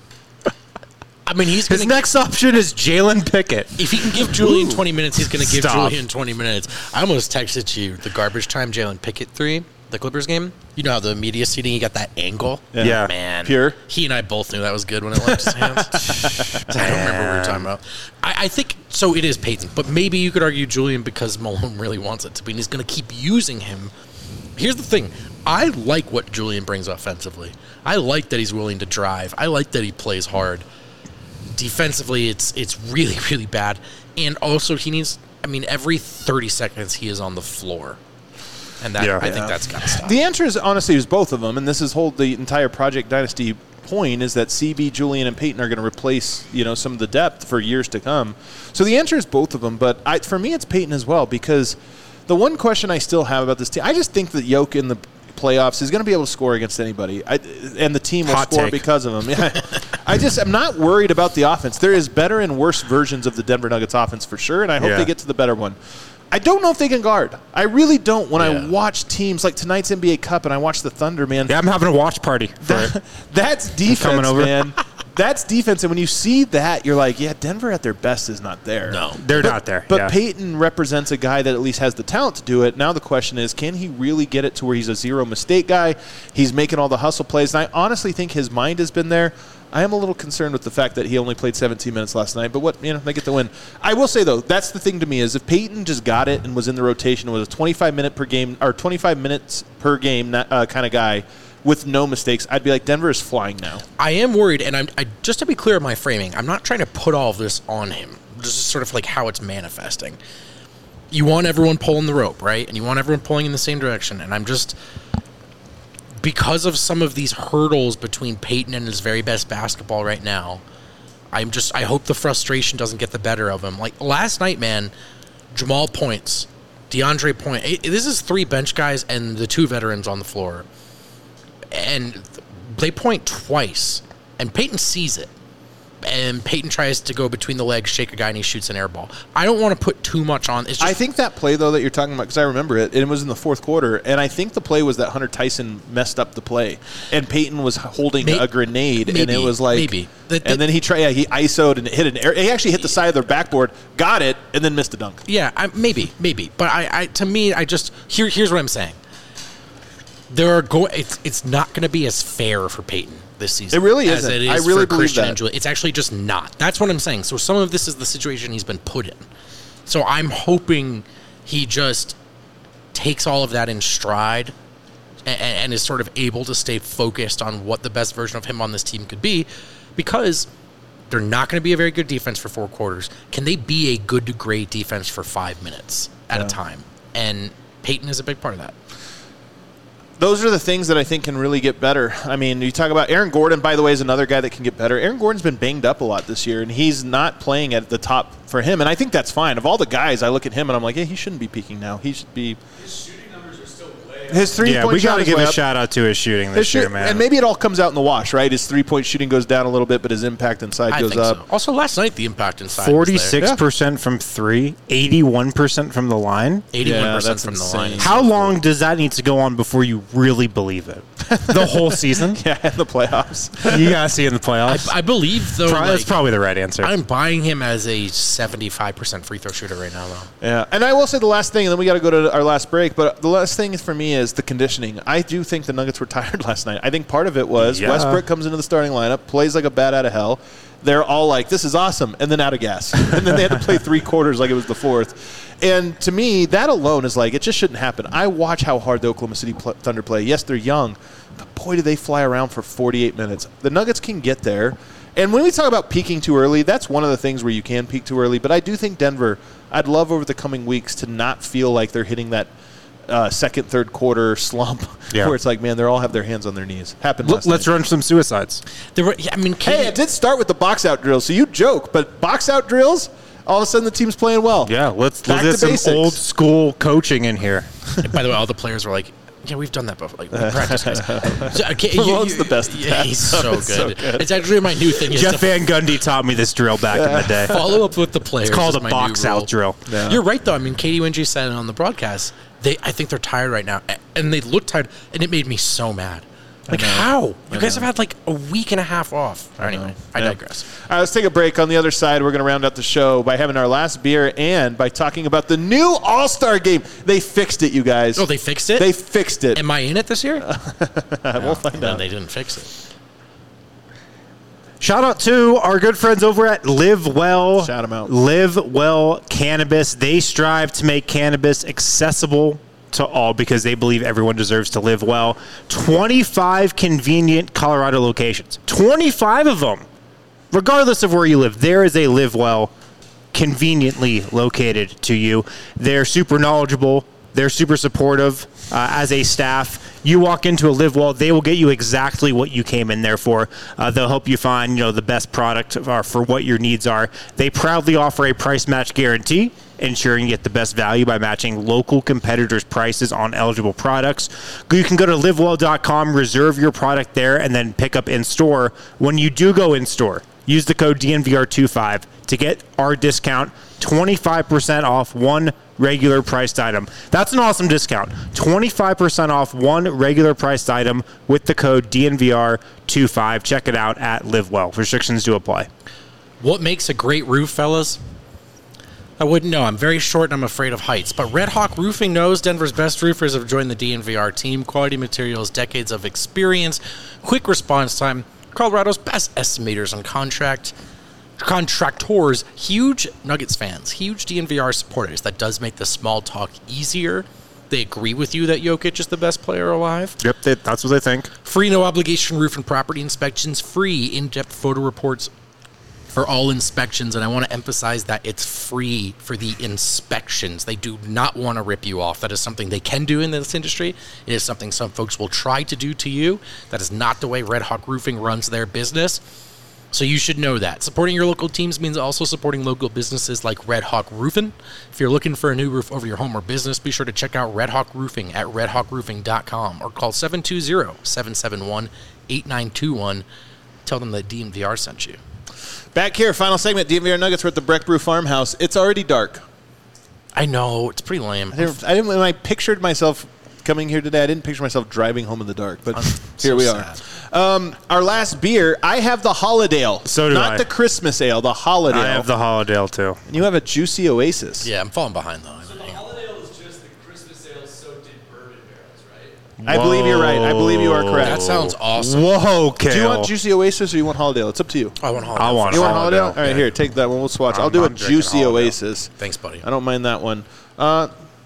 I mean, he's His going to... next option is Jalen Pickett. If he can give Julian twenty minutes, he's going to give Stop. Julian twenty minutes. I almost texted you the garbage time Jalen Pickett three, the Clippers game. You know how the media seating, he got that angle? Yeah. Yeah. Man. Pure? He and I both knew that was good when it left his hands. I don't remember what we were talking about. I, I think, so it is Peyton, but maybe you could argue Julian because Malone really wants it to be, and he's going to keep using him. Here's the thing. I like what Julian brings offensively. I like that he's willing to drive. I like that he plays hard. Defensively, it's it's really, really bad. And also, he needs, I mean, every thirty seconds he is on the floor. And that Yeah. I Yeah. think that's got to stop. The answer is honestly is both of them, and this is whole the entire Project Dynasty point is that C B, Julian, and Peyton are going to replace you know some of the depth for years to come. So the answer is both of them, but I, for me it's Peyton as well because the one question I still have about this team, I just think that Jokic in the playoffs is going to be able to score against anybody, I, and the team will Hot score take. because of him. Yeah. I just I'm not worried about the offense. There is better and worse versions of the Denver Nuggets offense for sure, and I hope Yeah. they get to the better one. I don't know if they can guard. I really don't. When I Yeah. watch teams like tonight's N B A Cup and I watch the Thunder, man, Yeah, I'm having a watch party for it. that, that's defense, coming over. man. That's defense, and when you see that, you're like, yeah, Denver at their best is not there. No. They're But- not there. But yeah. Peyton represents a guy that at least has the talent to do it. Now the question is, can he really get it to where he's a zero mistake guy? He's making all the hustle plays, and I honestly think his mind has been there. I am a little concerned with the fact that he only played seventeen minutes last night, but what you know, they get the win. I will say though, that's the thing to me is if Peyton just got it and was in the rotation, was a twenty-five minute per game or twenty-five minutes per game uh, kind of guy with no mistakes, I'd be like, Denver is flying now. I am worried, and I'm I, just to be clear in my framing, I'm not trying to put all of this on him. This is sort of like how it's manifesting. You want everyone pulling the rope, right? And you want everyone pulling in the same direction. And I'm just, because of some of these hurdles between Peyton and his very best basketball right now, I'm just, I hope the frustration doesn't get the better of him. Like last night, man, Jamal points, DeAndre point. It, this is three bench guys and the two veterans on the floor. And they point twice, and Peyton sees it. And Peyton tries to go between the legs, shake a guy, and he shoots an air ball. I don't want to put too much on. It's just, I think that play, though, that you're talking about, because I remember it, it was in the fourth quarter, and I think the play was that Hunter Tyson messed up the play, and Peyton was holding May- a grenade, and maybe, it was like, maybe. The- the- and then he tried, yeah, he I S O'd and hit an air, he actually hit the side of their backboard, got it, and then missed a dunk. yeah, I, maybe, maybe. But I, I, to me, I just here. Here's what I'm saying. There are go. It's it's not going to be as fair for Peyton this season. It really as isn't. it is I really for believe Christian that. and Julian. It's actually just not. That's what I'm saying. So some of this is the situation he's been put in. So I'm hoping he just takes all of that in stride, and, and is sort of able to stay focused on what the best version of him on this team could be, because they're not going to be a very good defense for four quarters. Can they be a good to great defense for five minutes at yeah. a time? And Peyton is a big part of that. Those are the things that I think can really get better. I mean, you talk about Aaron Gordon, by the way, is another guy that can get better. Aaron Gordon's been banged up a lot this year, and he's not playing at the top for him. And I think that's fine. Of all the guys, I look at him and I'm like, yeah, he shouldn't be peaking now. He should be. His shooting numbers are still way up. His three-point yeah, we got to give a up. shout out to his shooting this his year, shoot, man. And maybe it all comes out in the wash, right? His three-point shooting goes down a little bit, but his impact inside I goes think up. So. Also, last night the impact inside forty-six percent from three, eighty-one percent from the line. eighty-one percent yeah, from insane. the line. How long does that need to go on before you really believe it? The whole season? Yeah, in the playoffs. You got to see in the playoffs. I, I believe, though, Pro- like, that's probably the right answer. I'm buying him as a seventy-five percent free throw shooter right now, though. Yeah, and I will say the last thing, and then we got to go to our last break, but the last thing for me is the conditioning. I do think the Nuggets were tired last night. I think part of it was Yeah. Westbrook comes into the starting lineup, plays like a bat out of hell. They're all like, this is awesome, and then out of gas. And then they had to play three quarters like it was the fourth. And to me, that alone is like, it just shouldn't happen. I watch how hard the Oklahoma City Thunder play. Yes, they're young, but boy, do they fly around for forty-eight minutes. The Nuggets can get there. And when we talk about peaking too early, that's one of the things where you can peak too early. But I do think Denver, I'd love over the coming weeks to not feel like they're hitting that uh, second, third quarter slump Yeah. where it's like, man, they all have their hands on their knees. Happened L- last let's night. run some suicides. There were, yeah, I mean, Hey, it did start with the box out drills, so you joke, but box out drills, all of a sudden the team's playing well. Yeah, let's, Back let's to get some basics. old school coaching in here. by the way, all the players were like, yeah, we've done that before. Like, we practice, guys. So, okay, Malone's the best at Yeah, that. he's so good. so good. It's actually my new thing. Is Jeff to Van Gundy taught me this drill back in the day. follow up with the players. It's called is a my new box rule. out drill. Yeah. You're right, though. I mean, Katie Winge said it on the broadcast. They, I think they're tired right now, a- and they look tired, and it made me so mad. Like, know. how? You I guys know. have had like a week and a half off. Anyway, I Yeah. digress. All right, let's take a break. On the other side, we're going to round out the show by having our last beer and by talking about the new All-Star game. They fixed it, you guys. Oh, they fixed it? They fixed it. Am I in it this year? we'll find no, out. they didn't fix it. Shout out to our good friends over at Live Well. Shout 'em out. Live Well Cannabis. They strive to make cannabis accessible to all because they believe everyone deserves to live well. twenty-five convenient Colorado locations. twenty-five of them. Regardless of where you live, there is a Live Well conveniently located to you. They're super knowledgeable. They're super supportive uh, as a staff. You walk into a Live Well, they will get you exactly what you came in there for. Uh, they'll help you find, you know, the best product for, for what your needs are. They proudly offer a price match guarantee, ensuring you get the best value by matching local competitors' prices on eligible products. You can go to live well dot com, reserve your product there, and then pick up in store. When you do go in store, use the code D N V R twenty-five to get our discount, twenty-five percent off one regular priced item. That's an awesome discount. twenty-five percent off one regular priced item with the code D N V R twenty-five. Check it out at Live Well. Restrictions do apply. What makes a great roof, fellas? I wouldn't know. I'm very short and I'm afraid of heights. But Red Hawk Roofing knows Denver's best roofers have joined the D N V R team. Quality materials, decades of experience, quick response time, Colorado's best estimators on contract, contractors, huge Nuggets fans, huge D N V R supporters. That does make the small talk easier. They agree with you that Jokic is the best player alive. Yep, they, that's what they think. Free no obligation roof and property inspections, free in-depth photo reports for all inspections, and I want to emphasize that it's free for the inspections. They do not want to rip you off. That is something they can do in this industry. It is something some folks will try to do to you. That is not the way Red Hawk Roofing runs their business. So you should know that. Supporting your local teams means also supporting local businesses like Red Hawk Roofing. If you're looking for a new roof over your home or business, be sure to check out Red Hawk Roofing at red hawk roofing dot com or call seven two zero, seven seven one, eight nine two one. Tell them that D N V R sent you. Back here, final segment, D N V R Nuggets. We're at the Breck Brew Farmhouse. It's already dark. I know. It's pretty lame. I didn't, I didn't. When I pictured myself coming here today, I didn't picture myself driving home in the dark. But I'm here so we sad. are. Um, our last beer, I have the Holidale. So do Not I. the Christmas ale, the Holidale. I have the Holidale, too. And you have a Juicy Oasis. Yeah, I'm falling behind, though. So the Holidale is just the Christmas ale, so did bourbon barrels, right? I believe you're right. I believe you are correct. That sounds awesome. Whoa, Kale. Do you want Juicy Oasis or you want Holidale? It's up to you. I want Holiday. I want You want Holidale. Holidale? All right, here, take that one. We'll swatch. I'm- I'll do I'm a drinking Juicy Holidale. Oasis. Thanks, buddy. I don't mind that one. Uh,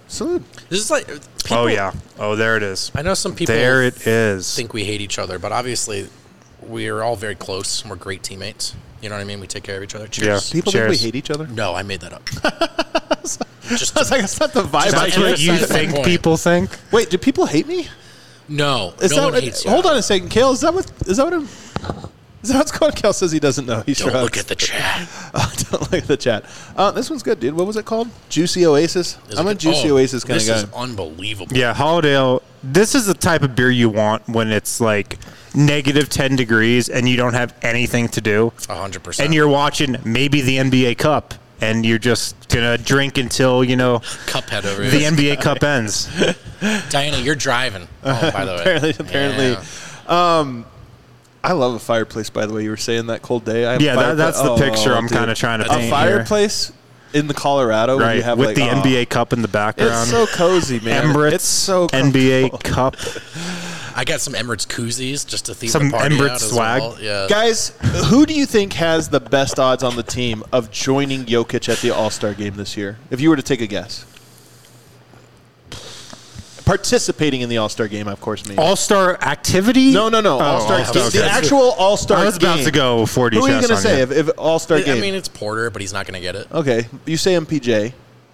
Salute. This is like. People, oh yeah. Oh, there it is. I know some people. There it is. Think we hate each other, but obviously, we are all very close. And we're great teammates. You know what I mean? We take care of each other. Cheers. Yeah. People Cheers. think we hate each other? No, I made that up. Just I was like, that's not the vibe. Just I That's to what get. you emphasize that think point. people think. Wait, do people hate me? no, Is no that one what, hates you. hold on a second, Kale. Is that what? Is that what? I'm, is that what's going on? Kale says he doesn't know. He Don't shrugs. look at the chat. Oh, don't look at the chat. Uh, this one's good, dude. What was it called? Juicy Oasis. Is I'm it a good? Juicy Oh, Oasis kind of This guy. is unbelievable. Yeah, Holiday. This is the type of beer you want when it's like negative ten degrees and you don't have anything to do, A hundred percent. and you're watching maybe the N B A Cup, and you're just gonna drink until you know Cuphead over the here. N B A Cup ends. Diana, you're driving. Oh, by the way. apparently, apparently. Yeah. Um, I love a fireplace. By the way, you were saying that cold day. I have Yeah, a that, fireplace- that's the Oh, picture I'm dude. kind of trying to A paint A here. fireplace in the Colorado. Where Right, you have with like, the oh, N B A Cup in the background. It's so cozy, man. Emirates, It's so N B A comfortable. Cup. I got some Emirates koozies just to theme Some the party Emirates out as swag. well. Yeah. Guys, who do you think has the best odds on the team of joining Jokic at the All-Star game this year? If you were to take a guess. Participating in the All-Star game, of course, means. All-Star activity? No, no, no. Oh, All-Star All-Star, game. The okay. actual All-Star game. I was about to go forty Who are you chess going to on say you. if, if All-Star I game? mean, it's Porter, but he's not going to get it. Okay. You say M P J.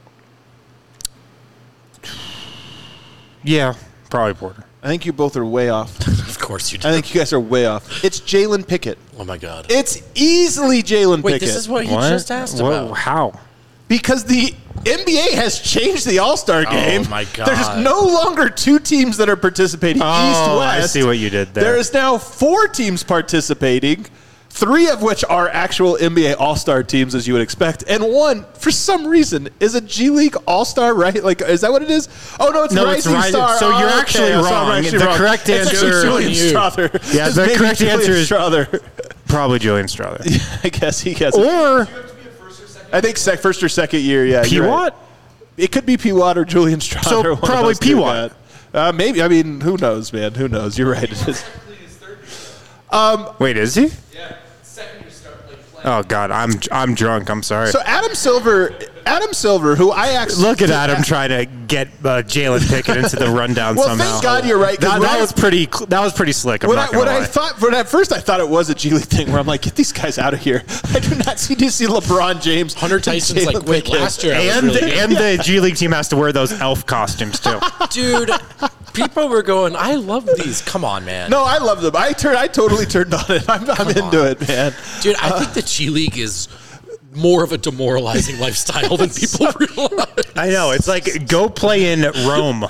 Yeah, probably Porter. I think you both are way off. Of course you do. I think you guys are way off. It's Jalen Pickett. Oh, my God. It's easily Jalen Wait, Pickett. this is what he What? just asked What? about. How? Because the N B A has changed the All-Star game. my God. There's no longer two teams that are participating, Oh, East-West. I see what you did there. There is now four teams participating, three of which are actual N B A All-Star teams, as you would expect, and one, for some reason, is a G League All-Star, right? Like, is that what it is? Oh, no, it's No, it's Rising Rising- Star. so Oh, you're okay, actually so I'm wrong. actually The wrong. correct It's actually answer- Julian You. Strother. Yeah, It's the maybe correct Julian answer is- Strother. Probably Julian Strother. I guess he gets it. Or You have to be a first or second. I think sec- first or second year, yeah. you're right. P-Watt? It could be P. Watt or Julian Strother. So one of probably those two P. Watt. guys. Uh, maybe. I mean, who knows, man? Who knows? You're right. It is. Technically, his third year. Wait, is he? Yeah, second year start like playing. Oh God, I'm I'm drunk. I'm sorry. So Adam Silver, Adam Silver, who I actually Look at Adam trying to get uh, Jalen Pickett into the rundown Well, somehow. thank God you're right, 'cause That, when that I- was pretty. cl- That was pretty slick. I'm When not I, gonna when lie. I thought, when at first I thought it was a G League thing where I'm like, get these guys out of here. I do not see to see LeBron James. Hunter and Tyson's like, Jalen wait, Pickett. last year I was and really good. and the G League team has to wear those elf costumes too. Dude, people were going, I love these. Come on, man. No, I love them. I turn. I totally turned on it. I'm, I'm into it, man. Dude, I think the G League is more of a demoralizing lifestyle than people realize. I know. It's like go play in Rome.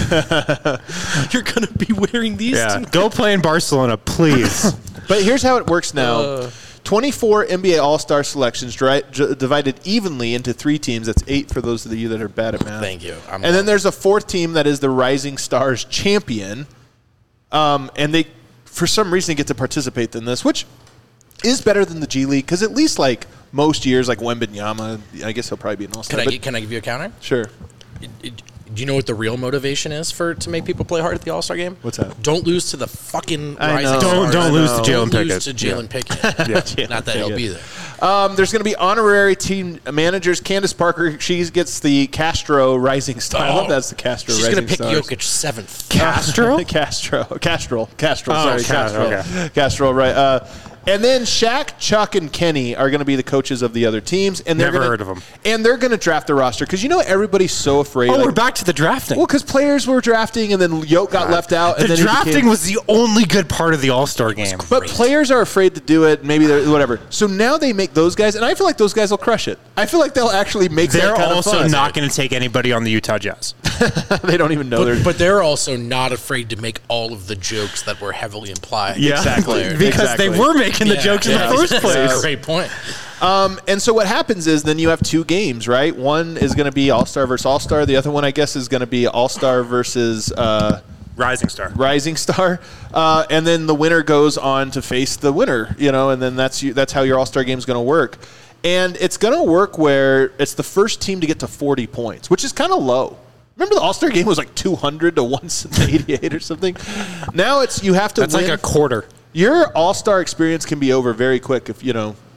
You're going to be wearing these Yeah, two. go play in Barcelona, please. But here's how it works now. Uh. twenty-four N B A All-Star selections dri- j- divided evenly into three teams. That's eight for those of you that are bad at math. Thank you. I'm and then there's a fourth team that is the Rising Stars champion. Um, and they, for some reason, get to participate in this, which is better than the G League because at least like most years, like Wembanyama, I guess he'll probably be an All-Star. Can I, but gi- can I give you a counter? sure. It- it- Do you know what the real motivation is for to make people play hard at the All Star game? What's that? Don't lose to the fucking I Rising know. Stars. Don't- don't lose to Don't Jalen Pickett. lose to Jalen Pickett. Not that he'll be there. Um, there's going to be honorary team managers. Candace Parker, she gets the Castro Rising Star. I love that's the Castro She's Rising going to pick Stars. Jokic seventh. Castro? Castro. Castrol. Castrol. Oh, Sorry, Ca- Castrol. okay. Castrol, right. Uh, and then Shaq, Chuck, and Kenny are going to be the coaches of the other teams. And they're Never gonna, heard of 'em. And they're going to draft the roster because you know everybody's so afraid. Oh, like- we're back to the drafting. Well, because players were drafting and then Yoke got left out. And the then he drafting became- was the only good part of the All Star game. But Great. players are afraid to do it. Maybe they're whatever. So now they make those guys, and I feel like those guys will crush it. I feel like they'll actually make. They're that kind also of fun. not going to take anybody on the Utah Jazz. They don't even know they're. But, but they're also not afraid to make all of the jokes that were heavily implied. Exactly. because Exactly. they were making the Yeah, jokes in yeah, the first that's place. a great point. Um, and so what happens is then you have two games, right? One is going to be All Star versus All Star. The other one, I guess, is going to be All Star versus uh, Rising Star. Rising Star. Uh, and then the winner goes on to face the winner, you know. And then that's you, that's how your All Star game is going to work. And it's going to work where it's the first team to get to forty points, which is kind of low. Remember the All-Star game was like two hundred to one eighty-eight or something? Now it's you have to That's win. like a quarter. Your All-Star experience can be over very quick if, you know,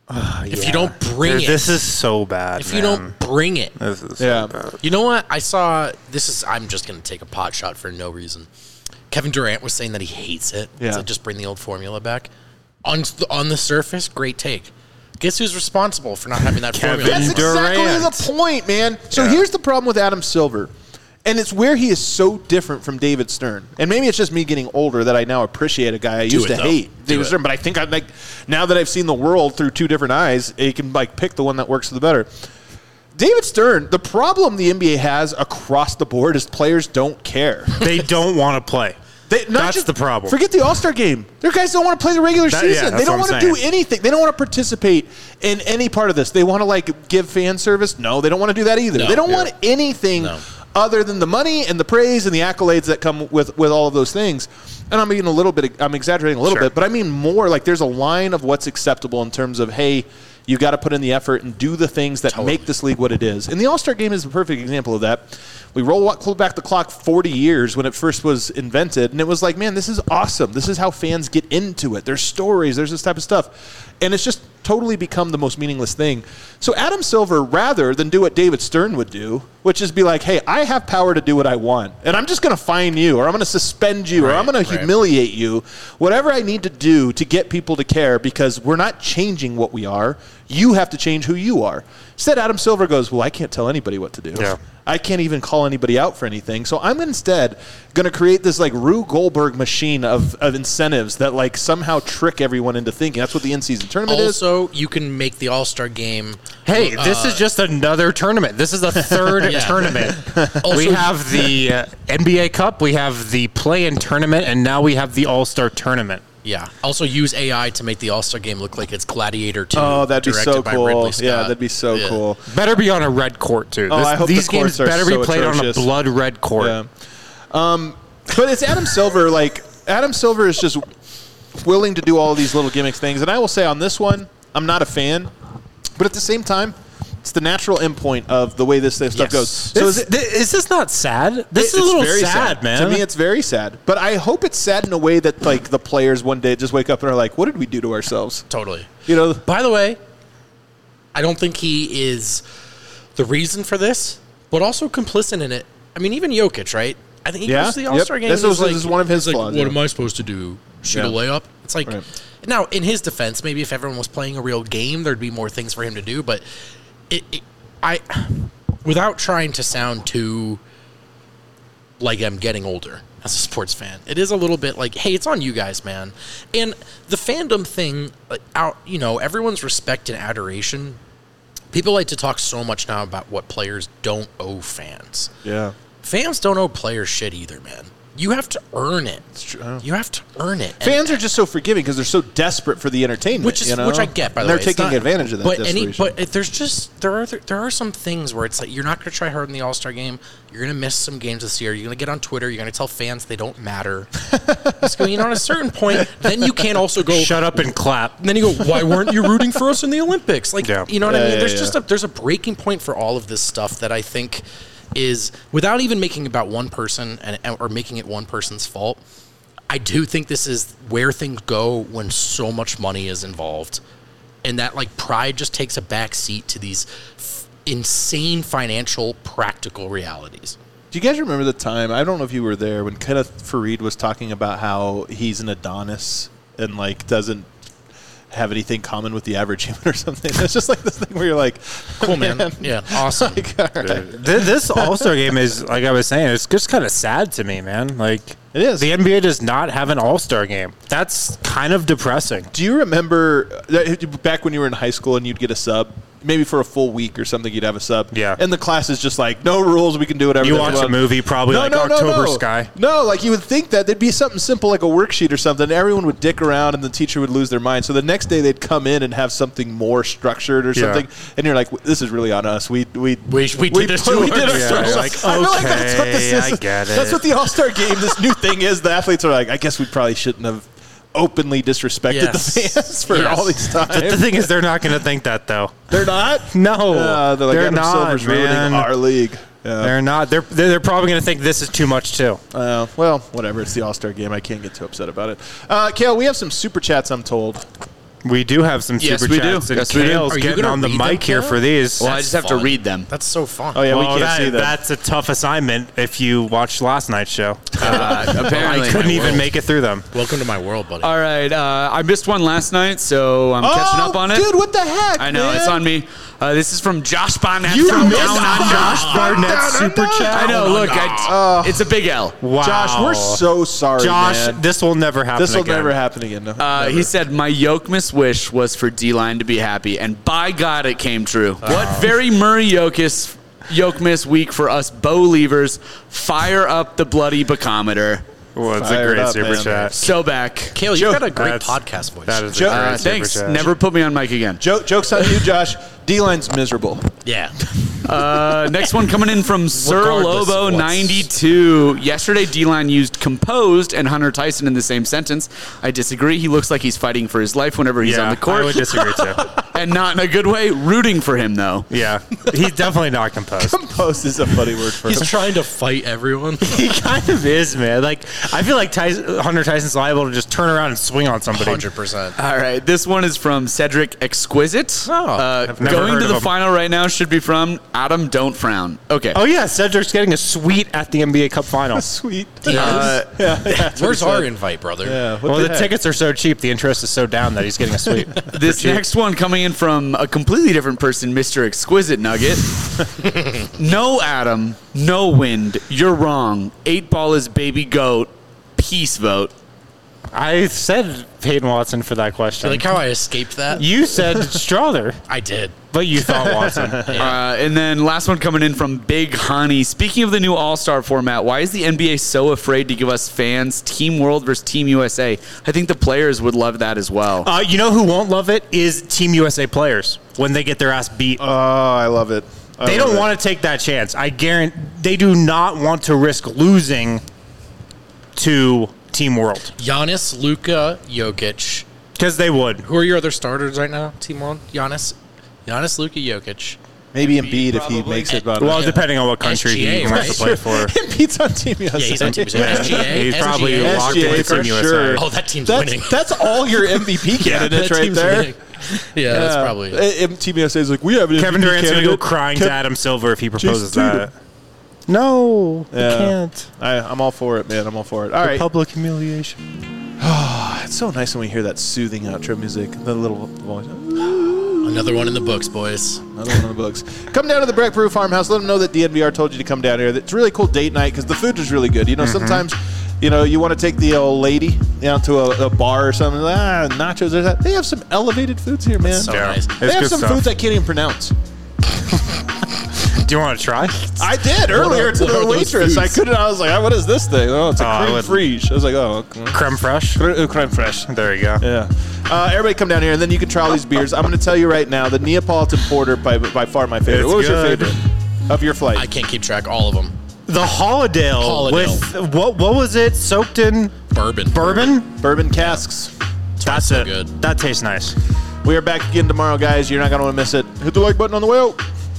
Uh, if yeah. you don't bring Dude, it, this is so bad. if man. you don't bring it, this is so Yeah. bad. you know what? I saw this is. I'm just going to take a pot shot for no reason. Kevin Durant was saying that he hates it. Yeah. So just bring the old formula back. On the, on the surface, great take. Guess who's responsible for not having that Kevin formula? That's anymore? exactly Durant. the point, man. So Yeah. here's the problem with Adam Silver. And it's where he is so different from David Stern. And maybe it's just me getting older that I now appreciate a guy I Do used it, to though. hate, Do David it. Stern. But I think I like now that I've seen the world through two different eyes, you can like pick the one that works for the better. David Stern, the problem the N B A has across the board is players don't care. They don't want to play. They, not That's just, the problem. Forget the All-Star game. Their guys don't want to play the regular That- yeah, season. that's they don't what want I'm to do saying. anything. They don't want to participate in any part of this. They want to like give fan service. No, they don't want to do that either. No. they don't Yeah. want anything No. other than the money and the praise and the accolades that come with, with all of those things. And I'm being a little bit, I'm exaggerating a little Sure. bit, but I mean more like there's a line of what's acceptable in terms of, hey, you got to put in the effort and do the things that Totally. make this league what it is. And the All-Star game is a perfect example of that. We roll back the clock forty years when it first was invented, and it was like, man, this is awesome. This is how fans get into it. There's stories. There's this type of stuff. And it's just totally become the most meaningless thing. So Adam Silver, rather than do what David Stern would do, which is be like, hey, I have power to do what I want, and I'm just going to fine you, or I'm going to suspend you, or Right, I'm going to right. humiliate you, whatever I need to do to get people to care, because we're not changing what we are. You have to change who you are. Instead, Adam Silver goes, well, I can't tell anybody what to do. Yeah. I can't even call anybody out for anything. So I'm instead going to create this like Rube Goldberg machine of, of incentives that like somehow trick everyone into thinking. That's what the in-season tournament is. Also, you can make the All-Star game. Hey, this is just another tournament. This is the third Yeah. tournament. Also- we have the uh, N B A Cup, we have the play-in tournament, and now we have the All-Star tournament. Yeah. Also, use A I to make the All-Star game look like it's Gladiator two. Oh, that'd be directed so by cool. Ridley Scott. Yeah, that'd be so Yeah. cool. Better be on a red court, too. Oh, This- I hope these the games courts are better so be played atrocious. on a blood red court. Yeah. Um, but it's Adam Silver. Like, Adam Silver is just willing to do all of these little gimmicks things. And I will say on this one, I'm not a fan. But at the same time, it's the natural endpoint of the way this stuff Yes. goes. So So is is, it, th- is this not sad? This It- is a little it's very sad, man. To me, it's very sad. But I hope it's sad in a way that like the players one day just wake up and are like, "What did we do to ourselves?" Totally. You know? By the way, I don't think he is the reason for this, but also complicit in it. I mean, even Jokic, right? I think he Yeah, goes to the yep. All-Star game. This and was- he's this is one of his he's flaws, Like, what yeah. am I supposed to do? Shoot Yeah. a layup? It's like Right. now, in his defense, maybe if everyone was playing a real game, there'd be more things for him to do. But it, it I, without trying to sound too like I'm getting older as a sports fan, it is a little bit like, hey, it's on you guys, man. And the fandom thing, like, out, you know, everyone's respect and adoration. People like to talk so much now about what players don't owe fans. Yeah. Fans don't owe players shit either, man. You have to earn it. true. You have to earn it. And- Fans are just so forgiving because they're so desperate for the entertainment, which is you know? which I get, by And the they're way. It's taking not- advantage of that. But any, desperation. but if there's just there are there are some things where it's like you're not going to try hard in the All Star game. You're going to miss some games this year. You're going to get on Twitter. You're going to tell fans they don't matter. Just go, you know, at a certain point, then you can't also go. Shut up and clap. And then you go, why weren't you rooting for us in the Olympics? Like, Yeah. you know what I Yeah, mean? yeah, There's yeah. just a there's a breaking point for all of this stuff that I think is, without even making it about one person and or making it one person's fault. I do think this is where things go when so much money is involved, and that like pride just takes a back seat to these f- insane financial practical realities. Do you guys remember the time? I don't know if you were there when Kenneth Fareed was talking about how he's an Adonis and like doesn't have anything common with the average human or something. It's just like this thing where you're like, Cool, man. Yeah, awesome. like, all right. Th- This All-Star game is, like I was saying, it's just kind of sad to me, man. Like, It is. The N B A does not have an All-Star game. That's kind of depressing. Do you remember that back when you were in high school and you'd get a sub? Maybe for a full week or something, you'd have a sub. Yeah. And the class is just like, no rules, we can do whatever. You the watch hell a we want. movie, probably like October Sky. No, like you would think that there'd be something simple like a worksheet or something. Everyone would dick around and the teacher would lose their mind. So the next day they'd come in and have something more structured or Yeah. something. And you're like, this is really on us. We we We- we did this to we did ourselves. ourselves. Yeah, like, I feel like that's what this okay, is. I get That's it. what the All-Star game, this new thing is. The athletes are like, I guess we probably shouldn't have openly disrespected Yes. the fans for Yes. all these times. The thing is, they're not going to think that, though. They're not? No, Uh, they're like, they're Adam not, Silver's ruining man. our league. Yeah. They're not. They're they're they're probably going to think this is too much, too. Uh, well, whatever. It's the All-Star game. I can't get too upset about it. Uh, Kale, we have some super chats, I'm told. We do have some Yes, super we do. chats. And Yes, we do. Kale's Are you getting gonna on the read them, mic here Kale? for these. Well, I That's just have fun. to read them. That's so fun. Oh yeah, we Well, can't that- see that. that's a tough assignment if you watched last night's show. Uh, apparently. I couldn't my even world. make it through them. Welcome to my world, buddy. All right. Uh, I missed one last night, so I'm catching up on it. Dude, what the heck? I know, man? it's on me. Uh, this is from Josh Barnett You from missed Down Under. Josh Barnett super chat. I know, look, I, it's a big L. Wow. Josh, we're so sorry, Josh, man. this will never happen This will again. never happen again. No, Uh, he said, my Jokic wish was for D-Line to be happy, and by God, it came true. What very Murray Jokic, Jokic week for us Bo-leavers. Fire up the bloody bacometer. Well, it's a Fired great up, super man. chat. So back. Kale, Joe, you've got a great that's- podcast voice. That is Joe- a great Uh, super thanks. chat. Never put me on mic again. Joke, joke's on you, Josh. D-line's miserable. yeah. Uh, next one coming in from Sir Regardless Lobo of what's- ninety-two. Yesterday, D-Line used composed and Hunter Tyson in the same sentence. I disagree. He looks like he's fighting for his life whenever he's yeah, on the court. I would disagree too. And not in a good way. Rooting for him, though. Yeah, he's definitely not composed. Composed is a funny word for He's him. trying to fight everyone. He kind of is, man. Like, I feel like Tyson, Hunter Tyson's liable to just turn around and swing on somebody. one hundred percent. All right, this one is from Cedric Exquisite. Oh, uh, I've never going heard to of the him. final right now should be from Adam Don't Frown. Okay. Oh yeah, Cedric's getting a suite at the N B A Cup final. Sweet. Uh, Where's our invite, brother? Yeah, what Well, the heck? tickets are so cheap, the interest is so down that he's getting a suite. this cheap. next one coming in from a completely different person, Mister Exquisite Nugget. No, Adam. No wind. You're wrong. Eight ball is baby goat. Peace vote. I said Peyton Watson for that Do question. you like how I escaped that? You said Strother, I did. but you thought Watson. Uh, and then last one coming in from Big Honey. Speaking of the new All-Star format, why is the N B A so afraid to give us fans Team World versus Team U S A? I think the players would love that as well. Uh, you know who won't love it is Team U S A players when they get their ass beat. Oh, I love it. I they love don't it. want to take that chance. I guarantee they do not want to risk losing to Team World Giannis, Luka, Jokic. because they would. Who are your other starters right now? Team World? Giannis, Giannis, Luka, Jokic. Maybe Embiid if he probably. makes it. About Well, Yeah. depending on what country S G A, he wants to play right? for. Embiid's on Team U S A. Yeah, he's on Team U S A. S G A, He's S G A. probably locked S G A into for Team U S A. sure. Oh, that team's winning. That's, that's all your M V P candidates That right team's there. winning. Yeah, that's probably it. Uh, Team U S A is like, we have an Kevin M V P Durant's going to go candidate. crying Kev- to Adam Silver if he proposes Jason that. No, Yeah. I can't. I, I'm all for it, man. I'm all for it. All right. Public humiliation. It's so nice when we hear that soothing outro music. The little voice. Another one in the books, boys. Another one in the books. Come down to the Breck Brew Farmhouse. Let them know that D N V R told you to come down here. It's a really cool date night because the food is really good. You know, sometimes, you know, you want to take the old lady down to a, a bar or something. Ah, nachos. There's that. They have some elevated foods here, man. So Yeah. nice. They It's have good some stuff. foods I can't even pronounce. Do you want to try? I did earlier are- to what the are those waitress. I foods? couldn't. I was like, oh, "What is this thing?" Oh, it's a Oh, I creme would- fraiche. I was like, "Oh, okay. Creme fraiche. Cre- creme fraiche." There you go. Yeah. Uh, everybody come down here, and then you can try all these beers. I'm going to tell you right now, the Neapolitan Porter, by, by far my favorite. It's what was good. your favorite of your flight? I can't keep track all of them. The Holidale, Holidale. with what? What was it? Soaked in Bourbon. bourbon. Bourbon casks. That's so it. good. That tastes nice. We are back again tomorrow, guys. You're not going to want to miss it. Hit the like button on the way out.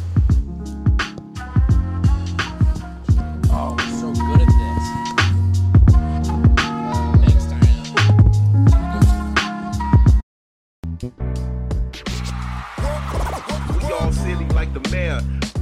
Oh, we're so good at this. Thanks, Diana. We all silly like the mayor.